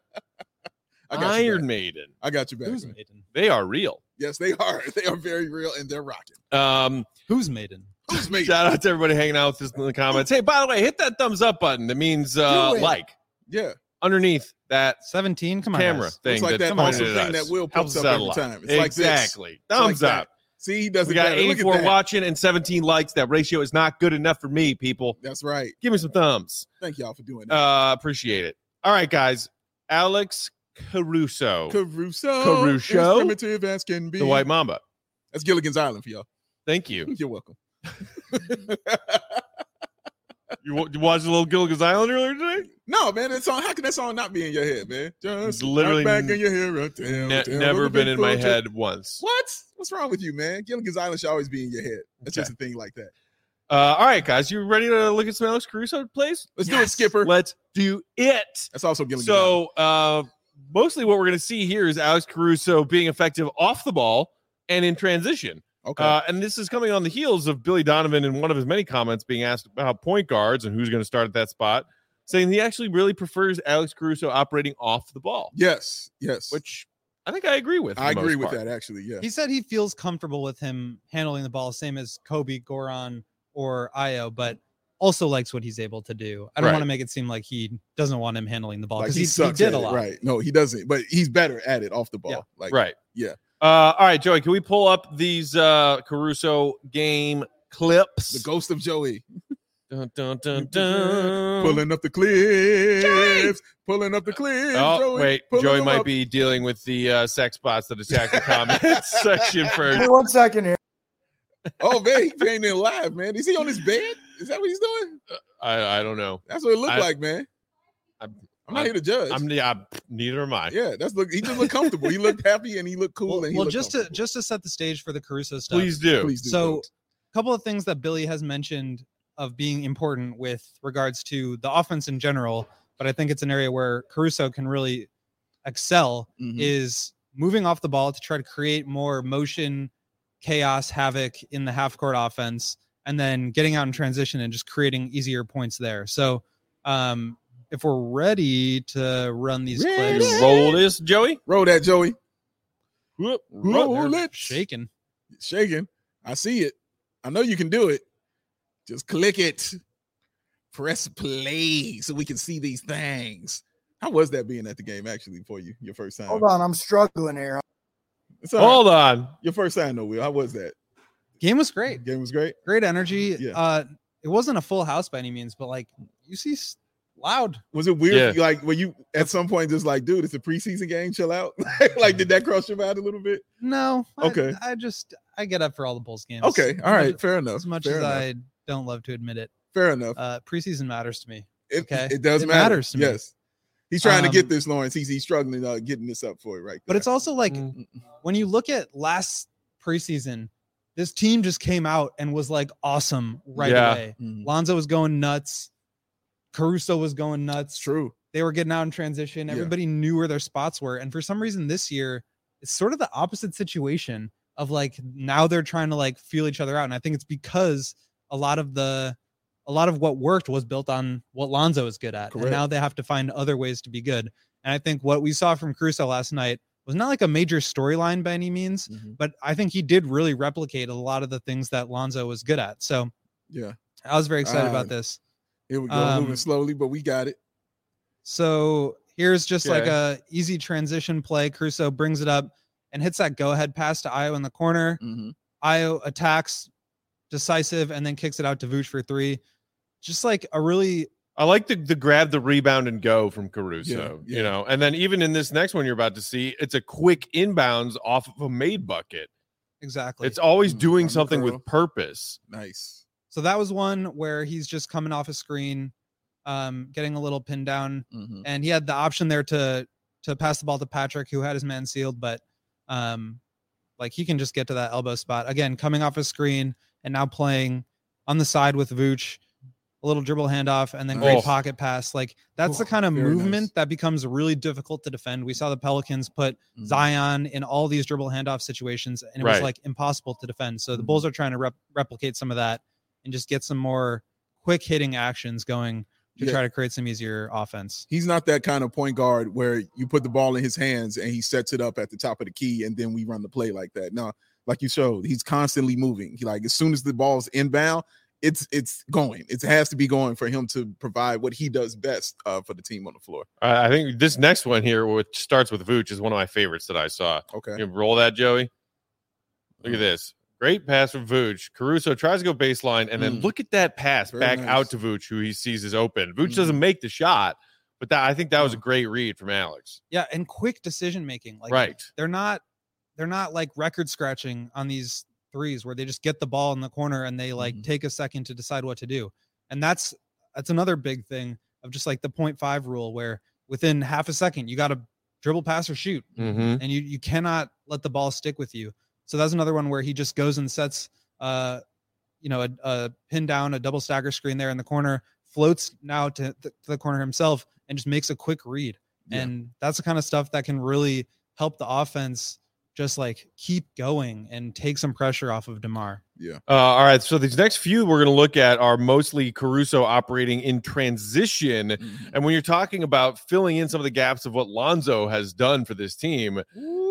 I got you Iron back. Maiden. I got you back. Who's man. Maiden? They are real. Yes, they are. They are very real and they're rocking. Um, Who's Maiden? Who's Maiden? shout out to everybody hanging out with us in the comments. Hey, by the way, hit that thumbs up button. That means uh, Do it. like Yeah. underneath that seventeen? Come on, camera guys. thing. It's like that that's pointed awesome at thing us. that Will Helps pops us up out a every lot. time. It's like this. Exactly. It's like Thumbs that. up. See, he does We it got better. Look at eighty-four that. watching and seventeen likes. That ratio is not good enough for me, people. That's right. Give me some thumbs. Thank y'all for doing that. Uh, appreciate it. All right, guys. Alex Caruso, Caruso. Caruso. As primitive as can be. the White Mamba. That's Gilligan's Island for y'all. Thank you. You're welcome. You, wa- you watched a little Gilligan's Island earlier today? No, man, that song. How can that song not be in your head, man? Just It's literally back in your head. Right there, Ne- tell never the been in my people head once. What? What's wrong with you, man? Gilligan's Island should always be in your head. That's Okay. just a thing like that. Uh, all right, guys. You ready to look at some Alex Caruso plays? Let's do it, Skipper. Let's do it. That's also Gilligan's Island. So, uh, mostly what we're going to see here is Alex Caruso being effective off the ball and in transition. Okay. Uh, and this is coming on the heels of Billy Donovan in one of his many comments being asked about point guards and who's going to start at that spot, saying he actually really prefers Alex Caruso operating off the ball, yes. Yes. which I think I agree with. for I the agree most with part. that, actually. Yeah. He said he feels comfortable with him handling the ball, same as Kobe, Goran, or Io, but also likes what he's able to do. I don't Right. want to make it seem like he doesn't want him handling the ball Like because he, he, he sucks did at a it, lot. right? No, he doesn't. But he's better at it off the ball. Yeah. Like, Right. Yeah. Uh, all right, Joey, can we pull up these uh, Caruso game clips? The ghost of Joey Dun, dun, dun, dun. pulling up the clips, pulling up the clips. Oh, Joey, wait. pulling Joey them might up. be dealing with the uh, sex bots that attack the comments section Give first. me one second here. Oh man, he ain't in live, man. Is he on his bed? Is that what he's doing? I, I don't know. That's what it looked I- like, man. I'm- I'm not here to judge. I'm yeah, neither am I. yeah, that's look. He just looked comfortable. He looked happy and he looked cool. Well, and he well looked just to comfortable. just to set the stage for the Caruso stuff. Please do. Please do. So, Coach. a couple of things that Billy has mentioned of being important with regards to the offense in general, but I think it's an area where Caruso can really excel Mhm. is moving off the ball to try to create more motion, chaos, havoc in the half court offense, and then getting out in transition and just creating easier points there. So, um, if we're ready to run these Ready. clips, You roll this, Joey. roll that, Joey. Whoop. Roll they're it. shaking. Shaking. I see it. I know you can do it. Just click it. Press play so we can see these things. How was that being at the game actually for you? Your first time. Hold on, I'm struggling here. It's all right. Hold on. Your first time, though, Will. How was that? Game was great. Game was great. Great energy. Yeah. Uh, it wasn't a full house by any means, but like you see s- loud. Was it weird? Yeah. Like, were you at some point just like, dude, it's a preseason game, chill out? Like, did that cross your mind a little bit? No. I- Okay. I, just I get up for all the Bulls games. Okay. All right. As, Fair enough. as much Fair as enough. I don't love to admit it, Fair enough. uh, preseason matters to me. It, okay. it does It matter. matters to me. Yes. He's trying to get Um, this, Lawrence. He's, he's struggling uh, getting this up for you, right? But it's also like Mm. when you look at last preseason, this team just came out and was like awesome right Yeah. away. Mhm. Lonzo was going nuts. Caruso was going nuts. It's true. They were getting out in transition. Yeah. Everybody knew where their spots were. And for some reason this year, it's sort of the opposite situation of like now they're trying to like feel each other out. And I think it's because a lot of the a lot of what worked was built on what Lonzo is good at. Correct. And now they have to find other ways to be good. And I think what we saw from Caruso last night was not like a major storyline by any means, Mhm. but I think he did really replicate a lot of the things that Lonzo was good at. So Yeah. I was very excited Uh, about this. Here we go, Um, moving slowly, but we got it. So here's just like Okay. a easy transition play. Caruso brings it up and hits that go ahead pass to Ayo in the corner. Mhm. Ayo attacks, decisive, and then kicks it out to Vooch for three. Just like a really I like the, the grab the rebound and go from Caruso, Yeah, you yeah. know, and then even in this next one you're about to see, it's a quick inbounds off of a made bucket. exactly. It's always Mm, doing on the something curl. with purpose. Nice. So that was one where he's just coming off a screen, um, getting a little pinned down, Mhm. and he had the option there to to pass the ball to Patrick, who had his man sealed, but um, like he can just get to that elbow spot again, coming off a screen and now playing on the side with Vooch, a little dribble handoff, and then great Oh. pocket pass. Like that's the Oh, kind of very movement nice. that becomes really difficult to defend. We saw the Pelicans put Mhm. Zion in all these dribble handoff situations, and it was Right. like impossible to defend. So the Mhm. Bulls are trying to rep- replicate some of that and just get some more quick hitting actions going to Yeah. try to create some easier offense. He's not that kind of point guard where you put the ball in his hands and he sets it up at the top of the key and then we run the play like that. No, like you showed, he's constantly moving. He like as soon as the ball's inbound, it's it's going. It has to be going for him to provide what he does best uh, for the team on the floor. I I think this next one here, which starts with Vooch, is one of my favorites that I saw. Okay. You roll that, Joey. Look at this. Great pass from Vooch. Caruso tries to go baseline, and then Mm. look at that pass Very back nice. out to Vooch, who he sees is open. Vooch Mhm. doesn't make the shot, but that I think that was a No. great read from Alex. Yeah, and quick decision making. Like right. they're not they're not like record scratching on these threes where they just get the ball in the corner and they like Mhm. take a second to decide what to do. And that's that's another big thing of just like the point five rule where within half a second you got to dribble, pass, or shoot, Mm-hmm. and you you cannot let the ball stick with you. So that's another one where he just goes and sets uh you know a, a pin down, a double stagger screen there in the corner, floats now to, to the corner himself and just makes a quick read. Yeah. And that's the kind of stuff that can really help the offense just like keep going and take some pressure off of DeMar. Yeah. Uh, all right. So these next few we're going to look at are mostly Caruso operating in transition. Mhm. And when you're talking about filling in some of the gaps of what Lonzo has done for this team,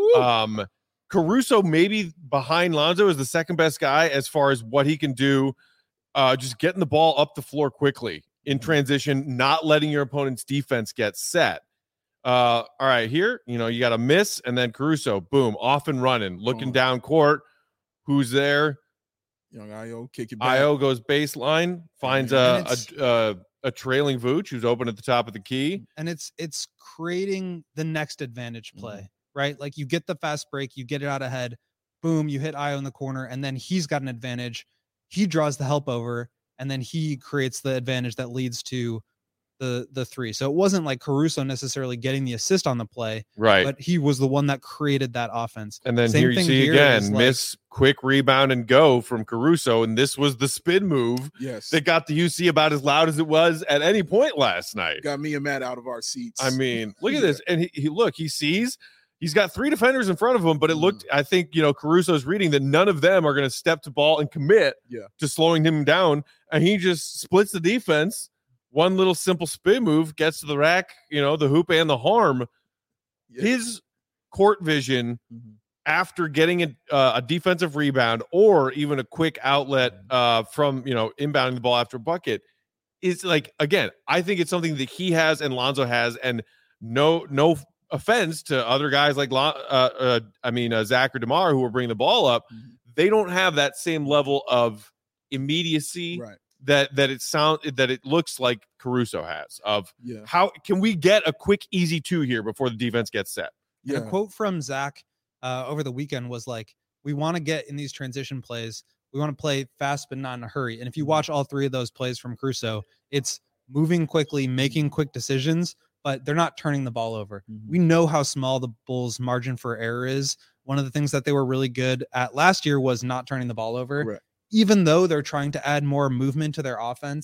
um, Caruso maybe behind Lonzo is the second best guy as far as what he can do, uh, just getting the ball up the floor quickly in transition, not letting your opponent's defense get set. Uh, all right, here, you know, you got a miss, and then Caruso, boom, off and running, looking Boom. down court. Who's there? Young Io, kick it back. Io goes baseline, finds And a, it's- a, a a trailing Vooch who's open at the top of the key. And it's it's creating the next advantage Mm-hmm. play, right? Like you get the fast break, you get it out ahead, boom, you hit Io in the corner, and then he's got an advantage. He draws the help over, and then he creates the advantage that leads to the the three. So it wasn't like Caruso necessarily getting the assist on the play, Right. but he was the one that created that offense. And then Same here you thing see here again, is like- miss, quick rebound and go from Caruso. And this was the spin move Yes. that got the U C about as loud as it was at any point last night. Got me and Matt out of our seats. I mean, look at Yeah. this. And he, he look, he sees he's got three defenders in front of him, but it looked, Mm-hmm. I think, you know, Caruso's reading that none of them are going to step to ball and commit Yeah. to slowing him down. And he just splits the defense. One little simple spin move gets to the rack, you know, the hoop and the harm. Yeah. His court vision Mhm. after getting a, uh, a defensive rebound or even a quick outlet Mm-hmm. uh, from, you know, inbounding the ball after a bucket is like, again, I think it's something that he has and Lonzo has, and no, no offense to other guys like, Lon, uh, uh, I mean, uh, Zach or DeMar who are bringing the ball up. Mhm. They don't have that same level of immediacy Right. that, that it sound that it looks like Caruso has of Yeah. how can we get a quick, easy two here before the defense gets set? And Yeah. a quote from Zach uh, over the weekend was like, we want to get in these transition plays. We want to play fast, but not in a hurry. And if you watch all three of those plays from Caruso, it's moving quickly, making quick decisions, but they're not turning the ball over. Mhm. We know how small the Bulls' margin for error is. One of the things that they were really good at last year was not turning the ball over, Correct. even though they're trying to add more movement to their offense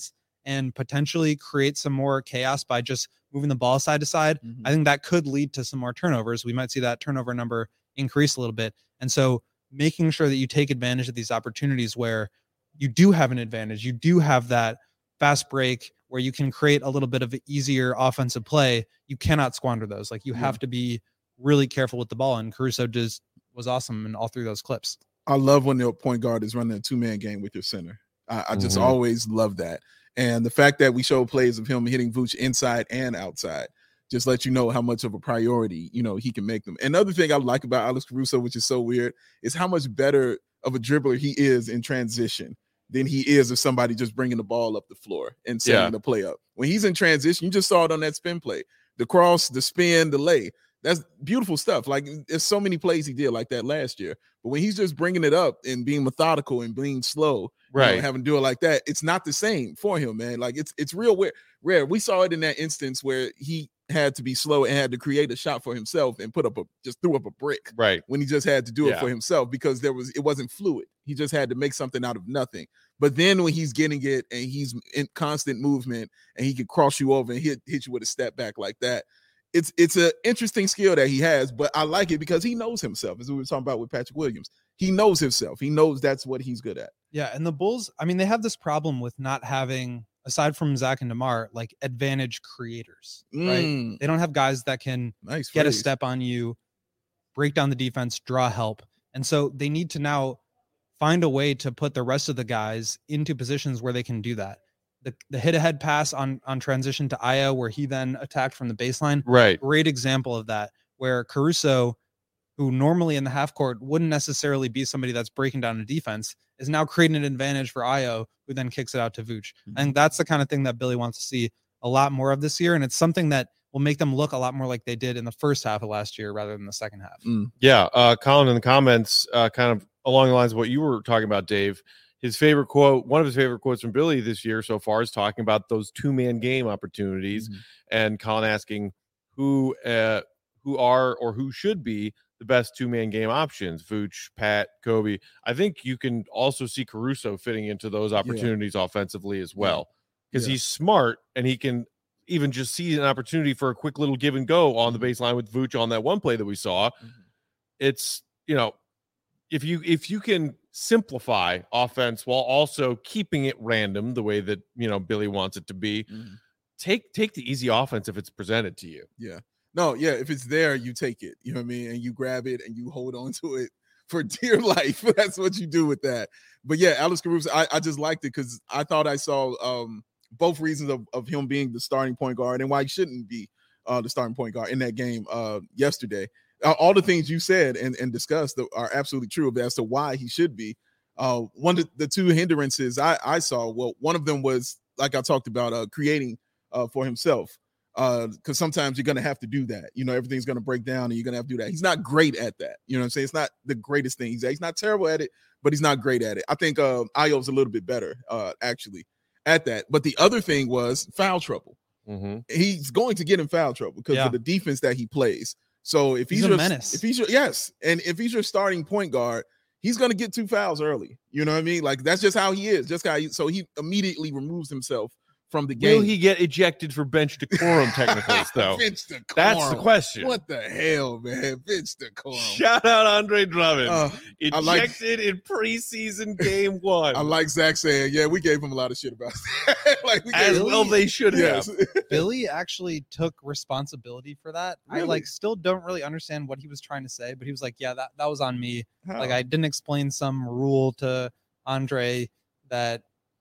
and potentially create some more chaos by just moving the ball side to side, Mhm. I think that could lead to some more turnovers. We might see that turnover number increase a little bit. And so making sure that you take advantage of these opportunities where you do have an advantage, you do have that fast break where you can create a little bit of an easier offensive play, you cannot squander those. Like you Yeah. have to be really careful with the ball. And Caruso just was awesome in all three of those clips. I love when the point guard is running a two-man game with your center. I, I just Mhm. always love that. And the fact that we show plays of him hitting Vooch inside and outside just let you know how much of a priority, you know, he can make them. Another thing I like about Alex Caruso, which is so weird, is how much better of a dribbler he is in transition than he is of somebody just bringing the ball up the floor and setting Yeah. the play up. When he's in transition, you just saw it on that spin play. The cross, the spin, the lay. That's beautiful stuff. Like there's so many plays he did like that last year. But when he's just bringing it up and being methodical and being slow, you know, Right. having to do it like that, it's not the same for him, man. Like it's it's real weird, rare. We saw it in that instance where he had to be slow and had to create a shot for himself and put up a just threw up a brick Right. when he just had to do it Yeah. for himself because there was it wasn't fluid. He just had to make something out of nothing. But then when he's getting it and he's in constant movement and he can cross you over and hit hit you with a step back like that, it's it's an interesting skill that he has. But I like it because he knows himself, as we were talking about with Patrick Williams. He knows himself. He knows that's what he's good at. Yeah. And the Bulls, I mean, they have this problem with not having, aside from Zach and DeMar, like advantage creators, right? Mm, They don't have guys that can nice. get a phrase. step on you, break down the defense, draw help. And so they need to now find a way to put the rest of the guys into positions where they can do that. The, the hit ahead pass on, on transition to Io, where he then attacked from the baseline. Right. Great example of that, where Caruso, who normally in the half court wouldn't necessarily be somebody that's breaking down a defense, is now creating an advantage for Io, who then kicks it out to Vooch. I think that's the kind of thing that Billy wants to see a lot more of this year. And it's something that will make them look a lot more like they did in the first half of last year rather than the second half. Mm. Yeah. Uh, Colin in the comments, uh, kind of along the lines of what you were talking about, Dave. His favorite quote, one of his favorite quotes from Billy this year so far, is talking about those two-man game opportunities, Mhm. and Colin asking who, uh, who are or who should be the best two-man game options. Vooch, Pat, Kobe. I think you can also see Caruso fitting into those opportunities offensively as well, because Yeah. he's smart and he can even just see an opportunity for a quick little give and go on the baseline with Vooch on that one play that we saw. Mhm. It's, you know, if you if you can simplify offense while also keeping it random the way that, you know, Billy wants it to be, Mhm. take take the easy offense if it's presented to you. Yeah. No, yeah. If it's there, you take it. You know what I mean? And you grab it and you hold on to it for dear life. That's what you do with that. But yeah, Alex Caruso, I, I just liked it because I thought I saw um, both reasons of, of him being the starting point guard and why he shouldn't be uh, the starting point guard in that game uh, yesterday. Uh, all the things you said and, and discussed are absolutely true as to why he should be. Uh, one of the two hindrances I, I saw, well, one of them was, like I talked about, uh, creating uh, for himself. Because uh, sometimes you're going to have to do that. You know, everything's going to break down and you're going to have to do that. He's not great at that. You know what I'm saying? It's not the greatest thing. He's, he's not terrible at it, but he's not great at it. I think uh, Io's a little bit better, uh, actually, at that. But the other thing was foul trouble. Mm-hmm. He's going to get in foul trouble because Yeah. of the defense that he plays. So if he's, He's a your, menace. if he's your, yes, and if he's your starting point guard, he's going to get two fouls early. You know what I mean? Like that's just how he is. Just how he, so he immediately removes himself from the game. Will he get ejected for bench decorum technicals, though? Bench decorum. That's the question. What the hell, man? Bench decorum. Shout out Andre Drummond. Uh, I like- ejected in preseason game one. I like Zach saying, yeah, we gave him a lot of shit about that. Like we As gave well him, they should yes. have. Billy actually took responsibility for that. I Really? like still don't really understand what he was trying to say, but he was like, yeah, that, that was on me. How? Like I didn't explain some rule to Andre that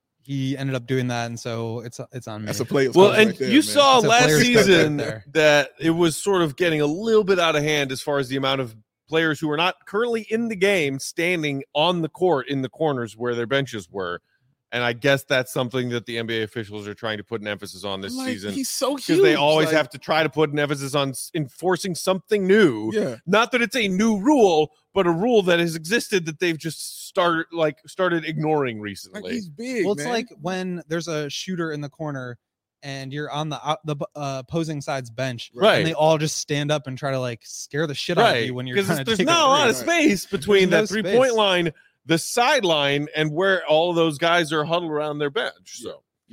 he ended up doing that, and so it's it's on me. That's a player. Well, coach and right there, you man. saw It's a last player's coach right season there. that it was sort of getting a little bit out of hand as far as the amount of players who are not currently in the game standing on the court in the corners where their benches were. And I guess that's something that the N B A officials are trying to put an emphasis on this Like, season, he's so huge. because they always like, have to try to put an emphasis on s- enforcing something new. Yeah. Not that it's a new rule, but a rule that has existed that they've just started like started ignoring Like recently. he's big. Well, it's man. like when there's a shooter in the corner and you're on the out- the uh, opposing side's bench, Right. and they all just stand up and try to like scare the shit out of Right. you when you're Because trying to there's take not a lot of Right. space between There's that no three point space. line, the sideline, and where all of those guys are huddled around their bench. So, Yeah.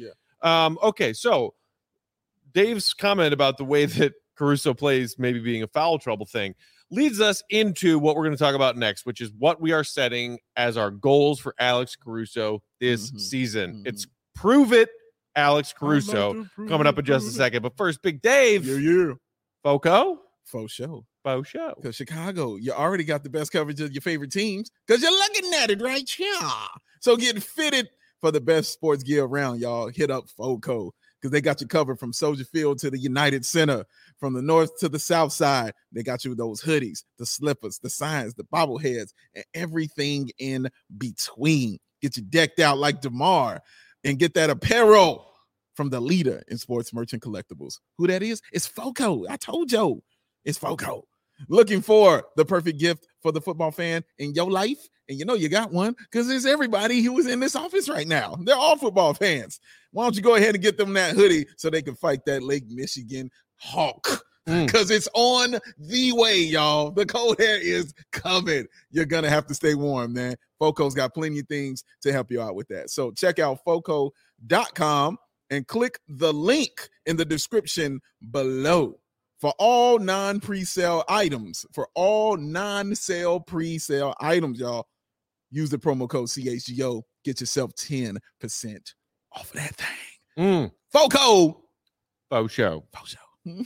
Um, okay, so Dave's comment about the way that Caruso plays maybe being a foul trouble thing leads us into what we're going to talk about next, which is what we are setting as our goals for Alex Caruso this Mhm. season. Mhm. It's Prove It, Alex I like Caruso, to prove coming up it, in just a prove it. second. But first, Big Dave, Yeah, yeah. Foco, For sure. Faux Show. Because Chicago, you already got the best coverage of your favorite teams because you're looking at it right here. So get fitted for the best sports gear around, y'all. Hit up FOCO because they got you covered from Soldier Field to the United Center, from the north to the south side. They got you with those hoodies, the slippers, the signs, the bobbleheads, and everything in between. Get you decked out like DeMar and get that apparel from the leader in sports merchant collectibles. Who that is? It's FOCO. I told you. It's FOCO. Looking for the perfect gift for the football fan in your life? And you know you got one because there's everybody who is in this office right now. They're all football fans. Why don't you go ahead and get them that hoodie so they can fight that Lake Michigan Hawk? Mm. Because it's on the way, y'all. The cold air is coming. You're going to have to stay warm, man. FOCO's got plenty of things to help you out with that. So check out foco dot com and click the link in the description below. For all non-pre-sale items, for all non-sale pre-sale items, y'all, use the promo code C H G O. Get yourself ten percent off of that thing. Mm, FOCO. Faux Show. FOCO.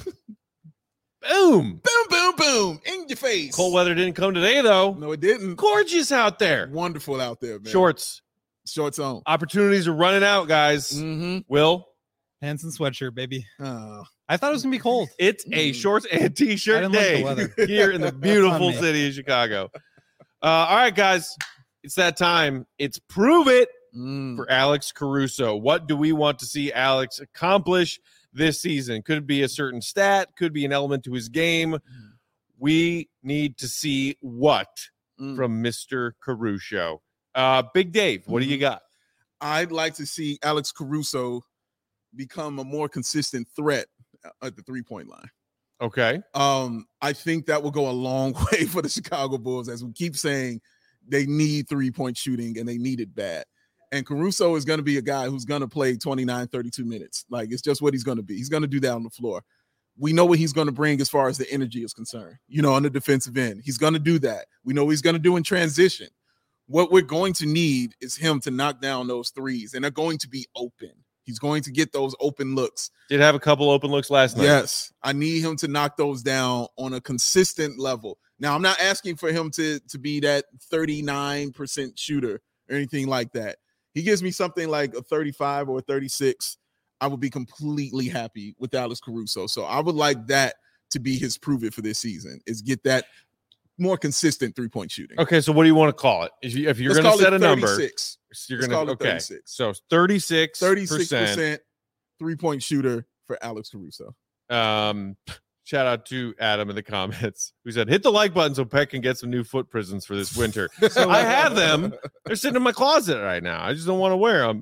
Boom. Boom, boom, boom. In your face. Cold weather didn't come today, though. No, it didn't. Gorgeous out there. Wonderful out there, man. Shorts. Shorts on. Opportunities are running out, guys. Mm-hmm. Will, Pants and sweatshirt, baby. Oh. I thought it was gonna be cold. it's a Mm. shorts and I t-shirt didn't like the day weather. here in the beautiful me. city of Chicago. Uh, all right, guys. It's that time. It's Prove It Mm. for Alex Caruso. What do we want to see Alex accomplish this season? Could be a certain stat, could be an element to his game. We need to see what Mm. from Mister Caruso. Uh, Big Dave, what do you got? I'd like to see Alex Caruso become a more consistent threat at the three-point line. Okay. Um, I think that will go a long way for the Chicago Bulls, as we keep saying they need three-point shooting and they need it bad. And Caruso is going to be a guy who's going to play twenty-nine, thirty-two minutes. Like, it's just what he's going to be. He's going to do that on the floor. We know what he's going to bring as far as the energy is concerned, you know, on the defensive end. He's going to do that. We know what he's going to do in transition. What we're going to need is him to knock down those threes, and they're going to be open. He's going to get those open looks. Did have a couple open looks last night. Yes, I need him to knock those down on a consistent level. Now, I'm not asking for him to, to be that thirty-nine percent shooter or anything like that. He gives me something like a thirty-five or a thirty-six. I would be completely happy with Alex Caruso. So I would like that to be his prove it for this season, is get that more consistent three-point shooting. Okay, so what do you want to call it? If, you, if you're Let's going to call set it a number, thirty-six. you're Let's going call to it okay. thirty-six. So thirty-six thirty-six percent. percent three-point shooter for Alex Caruso. Um, shout out to Adam in the comments who said, "Hit the like button so Peck can get some new foot prisons for this winter." So I have them. They're sitting in my closet right now. I just don't want to wear them.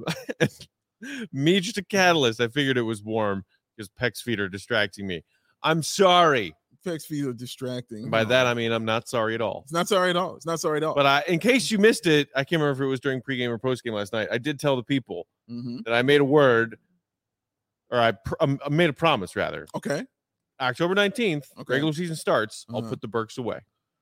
Me, just a catalyst. I figured it was warm because Peck's feet are distracting me. I'm sorry. Peck's feet are distracting. By No. that I mean I'm not sorry at all. It's not sorry at all. It's not sorry at all. But I, in case you missed it, I can't remember if it was during pregame or postgame last night. I did tell the people Mhm. that I made a word, or I, pr- um, I made a promise rather. Okay. October nineteenth, Okay. regular season starts. I'll Uh-huh. put the Burks away.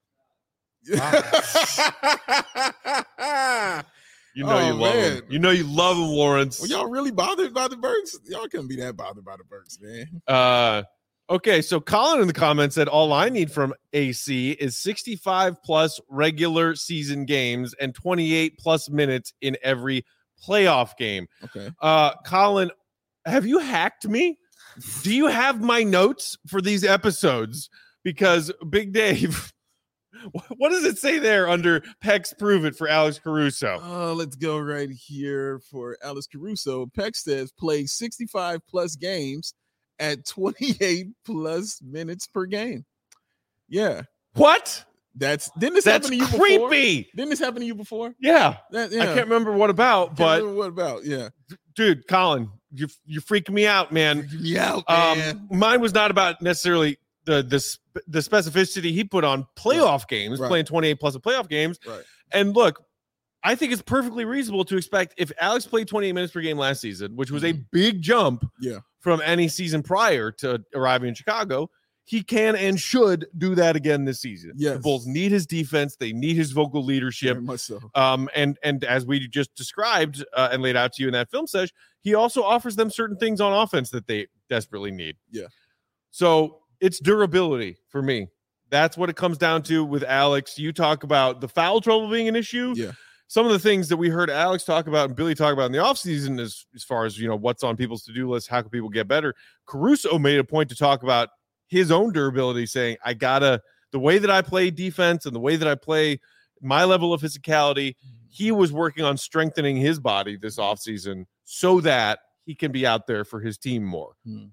You know Oh, you love man. them. You know you love them, Lawrence. Were y'all really bothered by the Burks? Y'all couldn't be that bothered by the Burks, man. Uh, okay, so Colin in the comments said all I need from A C is sixty-five plus regular season games and twenty-eight plus minutes in every playoff game. Okay. Uh, Colin, have you hacked me? Do you have my notes for these episodes? Because Big Dave, what does it say there under Peck's Prove It for Alex Caruso? Uh, let's go right here for Alex Caruso. Peck says play sixty-five plus games at twenty-eight plus minutes per game. Yeah. What? That's didn't this That's happen to you before? creepy. Didn't this happen to you before? Yeah. That, yeah. I can't remember what about, Can't but remember what about? Yeah. dude, Colin, you you're freaking me out, man. Yeah, man. Um, mine was not about necessarily the the sp- the specificity he put on playoff games, Right. playing twenty-eight plus of playoff games. Right. And look, I think it's perfectly reasonable to expect if Alex played twenty-eight minutes per game last season, which was a Mhm. big jump Yeah. from any season prior to arriving in Chicago, he can and should do that again this season. The Yes. Bulls need his defense. They need his vocal leadership. Very much so. Um, and and as we just described uh, and laid out to you in that film session, he also offers them certain things on offense that they desperately need. Yeah. So it's durability for me. That's what it comes down to with Alex. You talk about the foul trouble being an issue. Yeah. Some of the things that we heard Alex talk about and Billy talk about in the offseason as, as far as, you know, what's on people's to-do list, how can people get better? Caruso made a point to talk about his own durability, saying, I gotta, the way that I play defense and the way that I play my level of physicality, he was working on strengthening his body this offseason so that he can be out there for his team more. Hmm.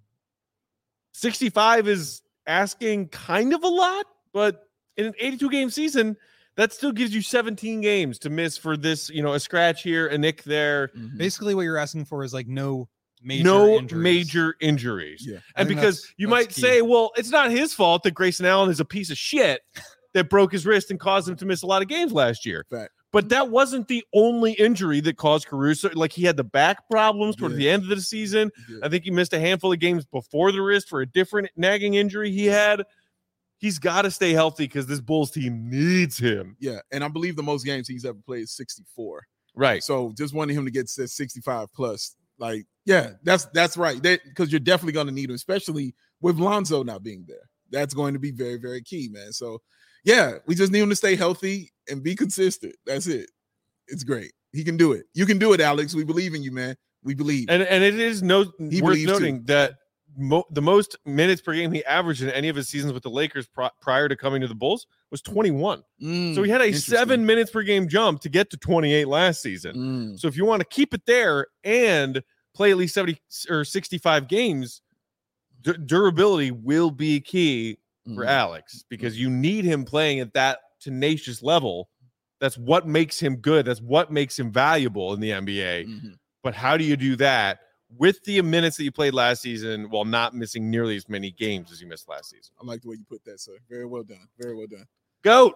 sixty-five is asking kind of a lot, but in an eighty-two game season, that still gives you seventeen games to miss for this, you know, a scratch here, a nick there, Mhm. Basically, what you're asking for is like no major no injuries. major injuries. Yeah. I And think because that's- you that's might key. say, well, it's not his fault that Grayson Allen is a piece of shit that broke his wrist and caused him to miss a lot of games last year. Fact. But that wasn't the only injury that caused Caruso. Like, he had the back problems toward Yeah. the end of the season. Yeah. I think he missed a handful of games before the wrist for a different nagging injury he had. He's got to stay healthy because this Bulls team needs him. Yeah. And I believe the most games he's ever played is sixty-four. Right. So just wanting him to get to sixty-five plus, like, yeah, that's that's right. Because you're definitely going to need him, especially with Lonzo not being there. That's going to be very, very key, man. So, yeah, we just need him to stay healthy and be consistent. That's it. It's great. He can do it. You can do it, Alex. We believe in you, man. We believe. And and it is no He worth believes noting that mo- the most minutes per game he averaged in any of his seasons with the Lakers pri- prior to coming to the Bulls was twenty-one. Mm, So he had a interesting. seven minutes per game jump to get to twenty-eight last season. Mm, So if you want to keep it there and play at least seventy or sixty-five games, d- durability will be key for mm. Alex because you need him playing at that tenacious level. That's what makes him good. That's what makes him valuable in the N B A. Mhm. But how do you do that with the minutes that you played last season while not missing nearly as many games as you missed last season? I like the way you put that, sir. Very well done. Very well done. Goat.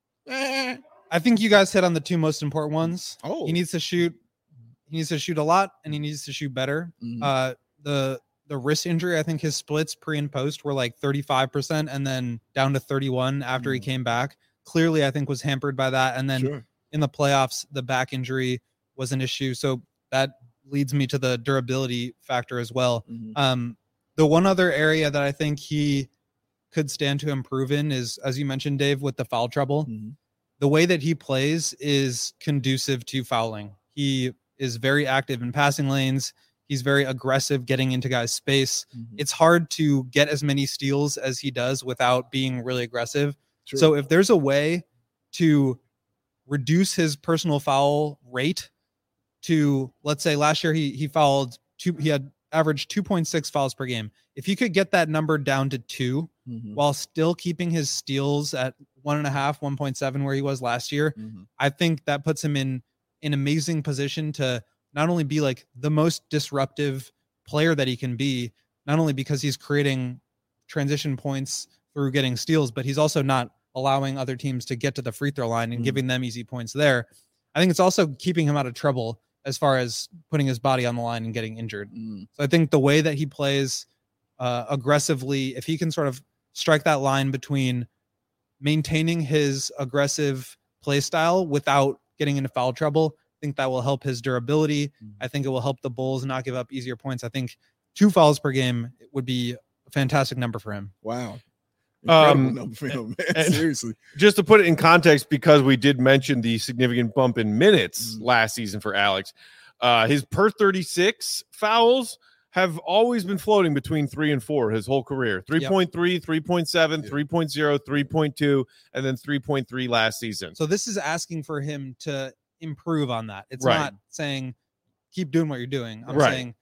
Eh. I think you guys hit on the two most important ones. Oh, He needs to shoot. He needs to shoot a lot, and he needs to shoot better. Mhm. Uh, the the wrist injury, I think his splits pre and post were like thirty-five percent, and then down to thirty-one after he Mhm. came back. Clearly, I think was hampered by that, and then sure. in the playoffs, the back injury was an issue. So that leads me to the durability factor as well. Mhm. Um, the one other area that I think he could stand to improve in is, as you mentioned, Dave, with the foul trouble. Mhm. The way that he plays is conducive to fouling. He is very active in passing lanes. He's very aggressive getting into guys' space. Mhm. It's hard to get as many steals as he does without being really aggressive. True. So if there's a way to reduce his personal foul rate to, let's say last year he he fouled two, he had averaged two point six fouls per game. If he could get that number down to two Mhm. while still keeping his steals at one and a half, one point seven where he was last year, Mhm. I think that puts him in an amazing position to not only be like the most disruptive player that he can be, not only because he's creating transition points through getting steals, but he's also not allowing other teams to get to the free throw line and Mhm. giving them easy points there. I think it's also keeping him out of trouble as far as putting his body on the line and getting injured. Mm. So I think the way that he plays uh, aggressively, if he can sort of strike that line between maintaining his aggressive play style without getting into foul trouble, I think that will help his durability. Mhm. I think it will help the Bulls not give up easier points. I think two fouls per game would be a fantastic number for him. Wow. Incredible Um, number for him, man. and- Seriously. Just to put it in context, because we did mention the significant bump in minutes Mhm. last season for Alex, uh, his per thirty-six fouls have always been floating between three and four his whole career. three point three, three point seven, Yeah. three point oh, three point two, and then three point three last season. So this is asking for him to improve on that. It's Right. not saying keep doing what you're doing. I'm Right. saying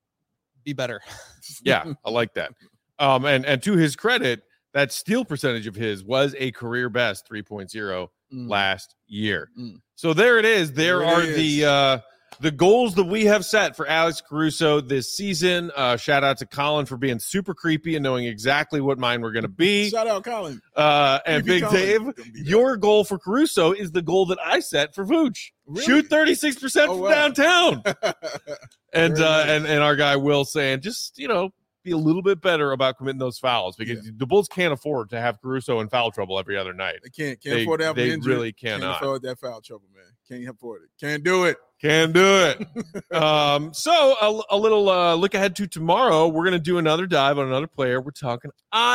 be better. Yeah, I like that. Um, and, and to his credit, that steal percentage of his was a career best three point oh Mm. last year. Mm. So there it is. There There it are is. the uh the goals that we have set for Alex Caruso this season. Uh, shout out to Colin for being super creepy and knowing exactly what mine were going to be. Shout out, Colin. Uh, and Creepy Big Colin. Dave, Gonna be there. your goal for Caruso is the goal that I set for Vooch. Really? Shoot thirty-six percent Oh, from wow. downtown. And Very uh, nice. and and our guy Will saying, just you know, be a little bit better about committing those fouls because Yeah. the Bulls can't afford to have Caruso in foul trouble every other night. They can't can't They- afford to have they an injury. really Can't cannot. afford that foul trouble, man. Can't afford it. Can't do it. Can do it. um, so a, a little uh, look ahead to tomorrow. We're gonna do another dive on another player. We're talking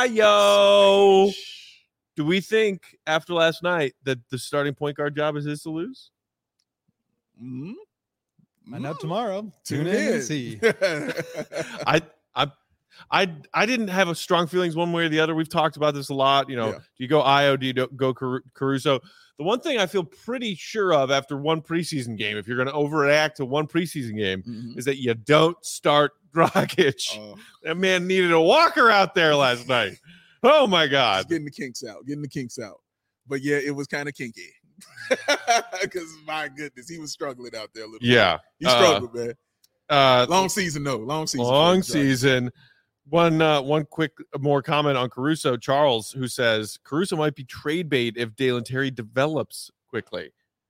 Ayo. Do we think after last night that the starting point guard job is his to lose? Mhm. Find out Mhm. tomorrow. Tune Tune in in. and see. I I I I didn't have a strong feelings one way or the other. We've talked about this a lot. You know, Yeah. do you go Io? Do you do- go Caru- Caruso? The one thing I feel pretty sure of after one preseason game, if you're going to overreact to one preseason game, Mhm. is that you don't start Dragic. Uh, That man needed a walker out there last night. Oh my just God. getting the kinks out, getting the kinks out. But yeah, it was kind of kinky. Because my goodness, he was struggling out there a little bit. Yeah. He Uh, struggled, man. Uh, Long season, no. Long season. for long the Giants. season. One uh, one quick more comment on Caruso. Charles, who says Caruso might be trade bait if Dalen Terry develops quickly.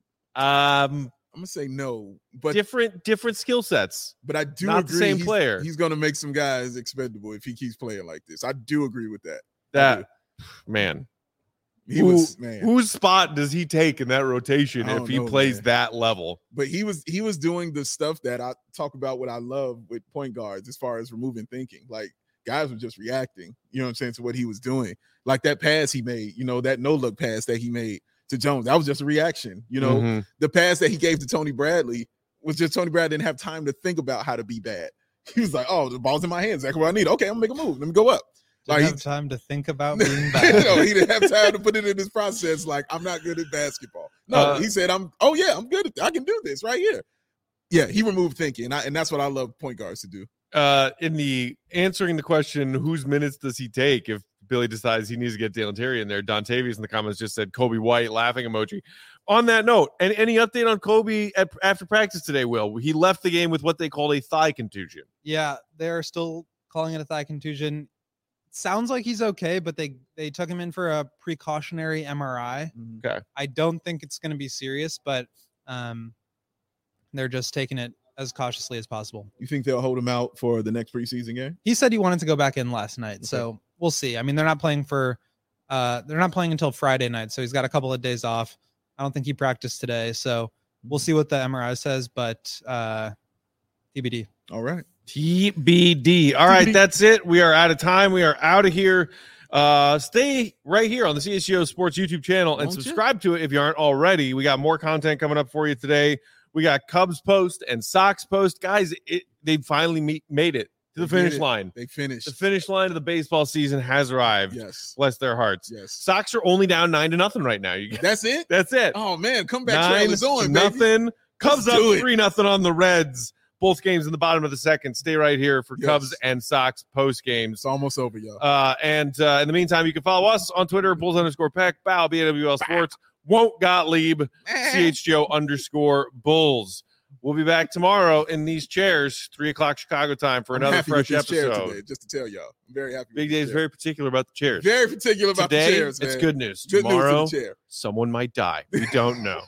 Um, I'm gonna say no, but different different skill sets. but I do not the agree. same he's, player. He's gonna make some guys expendable if he keeps playing like this. I do agree with that. I That man, do. He Who- was man. whose spot does he take in that rotation I if don't he know, plays man. that level? But he was he was doing the stuff that I talk about what I love with point guards as far as removing thinking. Like guys were just reacting, you know what I'm saying, to what he was doing. Like that pass he made, you know, that no look pass that he made to Jones. That was just a reaction. You know, Mhm. the pass that he gave to Tony Bradley was just Tony Bradley didn't have time to think about how to be bad. He was like, oh, the ball's in my hands. That's what I need. Okay, I'm gonna make a move. Let me go up. Didn't Like have he- time to think about being bad. no, he didn't have time to put it in his process. Like, I'm not good at basketball. No, Uh, he said, I'm, oh, yeah, I'm good at I can do this right here. Yeah, he removed thinking. And, I, and that's what I love point guards to do. Uh, in the answering the question, whose minutes does he take if Billy decides he needs to get Dalen Terry in there? Dontavius in the comments just said Kobe White, laughing emoji. On that note, and any update on Kobe at, after practice today? Will he left the game with what they called a thigh contusion? Yeah, they're still calling it a thigh contusion. Sounds like he's okay, but they they took him in for a precautionary M R I. Okay. I don't think it's going to be serious, but um, they're just taking it as cautiously as possible. You think they'll hold him out for the next preseason game? He said he wanted to go back in last night, Okay. so we'll see. I mean, they're not playing for uh, they're not playing until Friday night, so he's got a couple of days off. I don't think he practiced today, so we'll see what the M R I says, but uh, T B D. All right. T B D. All right, T B D. that's it. We are out of time. We are out of here. Uh, stay right here on the C S G O Sports YouTube channel and Won't you? subscribe to it if you aren't already. We got more content coming up for you today. We got Cubs post and Sox post. Guys, it, they finally meet, made it to the They did finish it. line. They finished. The finish line of the baseball season has arrived. Yes. Bless their hearts. Yes. Sox are only down nine to nothing right now. You That's it? That's it. Oh, man. Comeback Nine trail is on, to baby. nothing. Cubs Let's up do it. three nothing on the Reds. Both games in the bottom of the second. Stay right here for Yes. Cubs and Sox post games. It's almost over, y'all. Uh, and uh, in the meantime, you can follow us on Twitter, Bulls underscore Peck, Bow, B A W L Sports, Won't Gottlieb, C H G O underscore Bulls. We'll be back tomorrow in these chairs, three o'clock Chicago time for I'm another happy fresh with this chair episode. today, just to tell y'all. I'm very happy. Big with Dave's this very particular about the chairs. chair. very particular about Today, the chairs, man. it's good news. Good Tomorrow, news for the chair. someone might die. We don't know.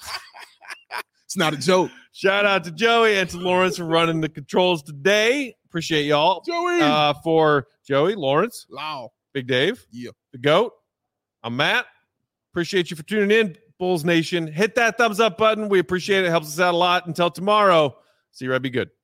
It's not a joke. Shout out to Joey and to Lawrence for running the controls today. Appreciate y'all. Joey. Uh, for Joey, Lawrence, Loud. Big Dave, Yeah. the GOAT, I'm Matt. Appreciate you for tuning in, Bulls Nation. Hit that thumbs up button. We appreciate it. It helps us out a lot. Until tomorrow, see you right. Be good.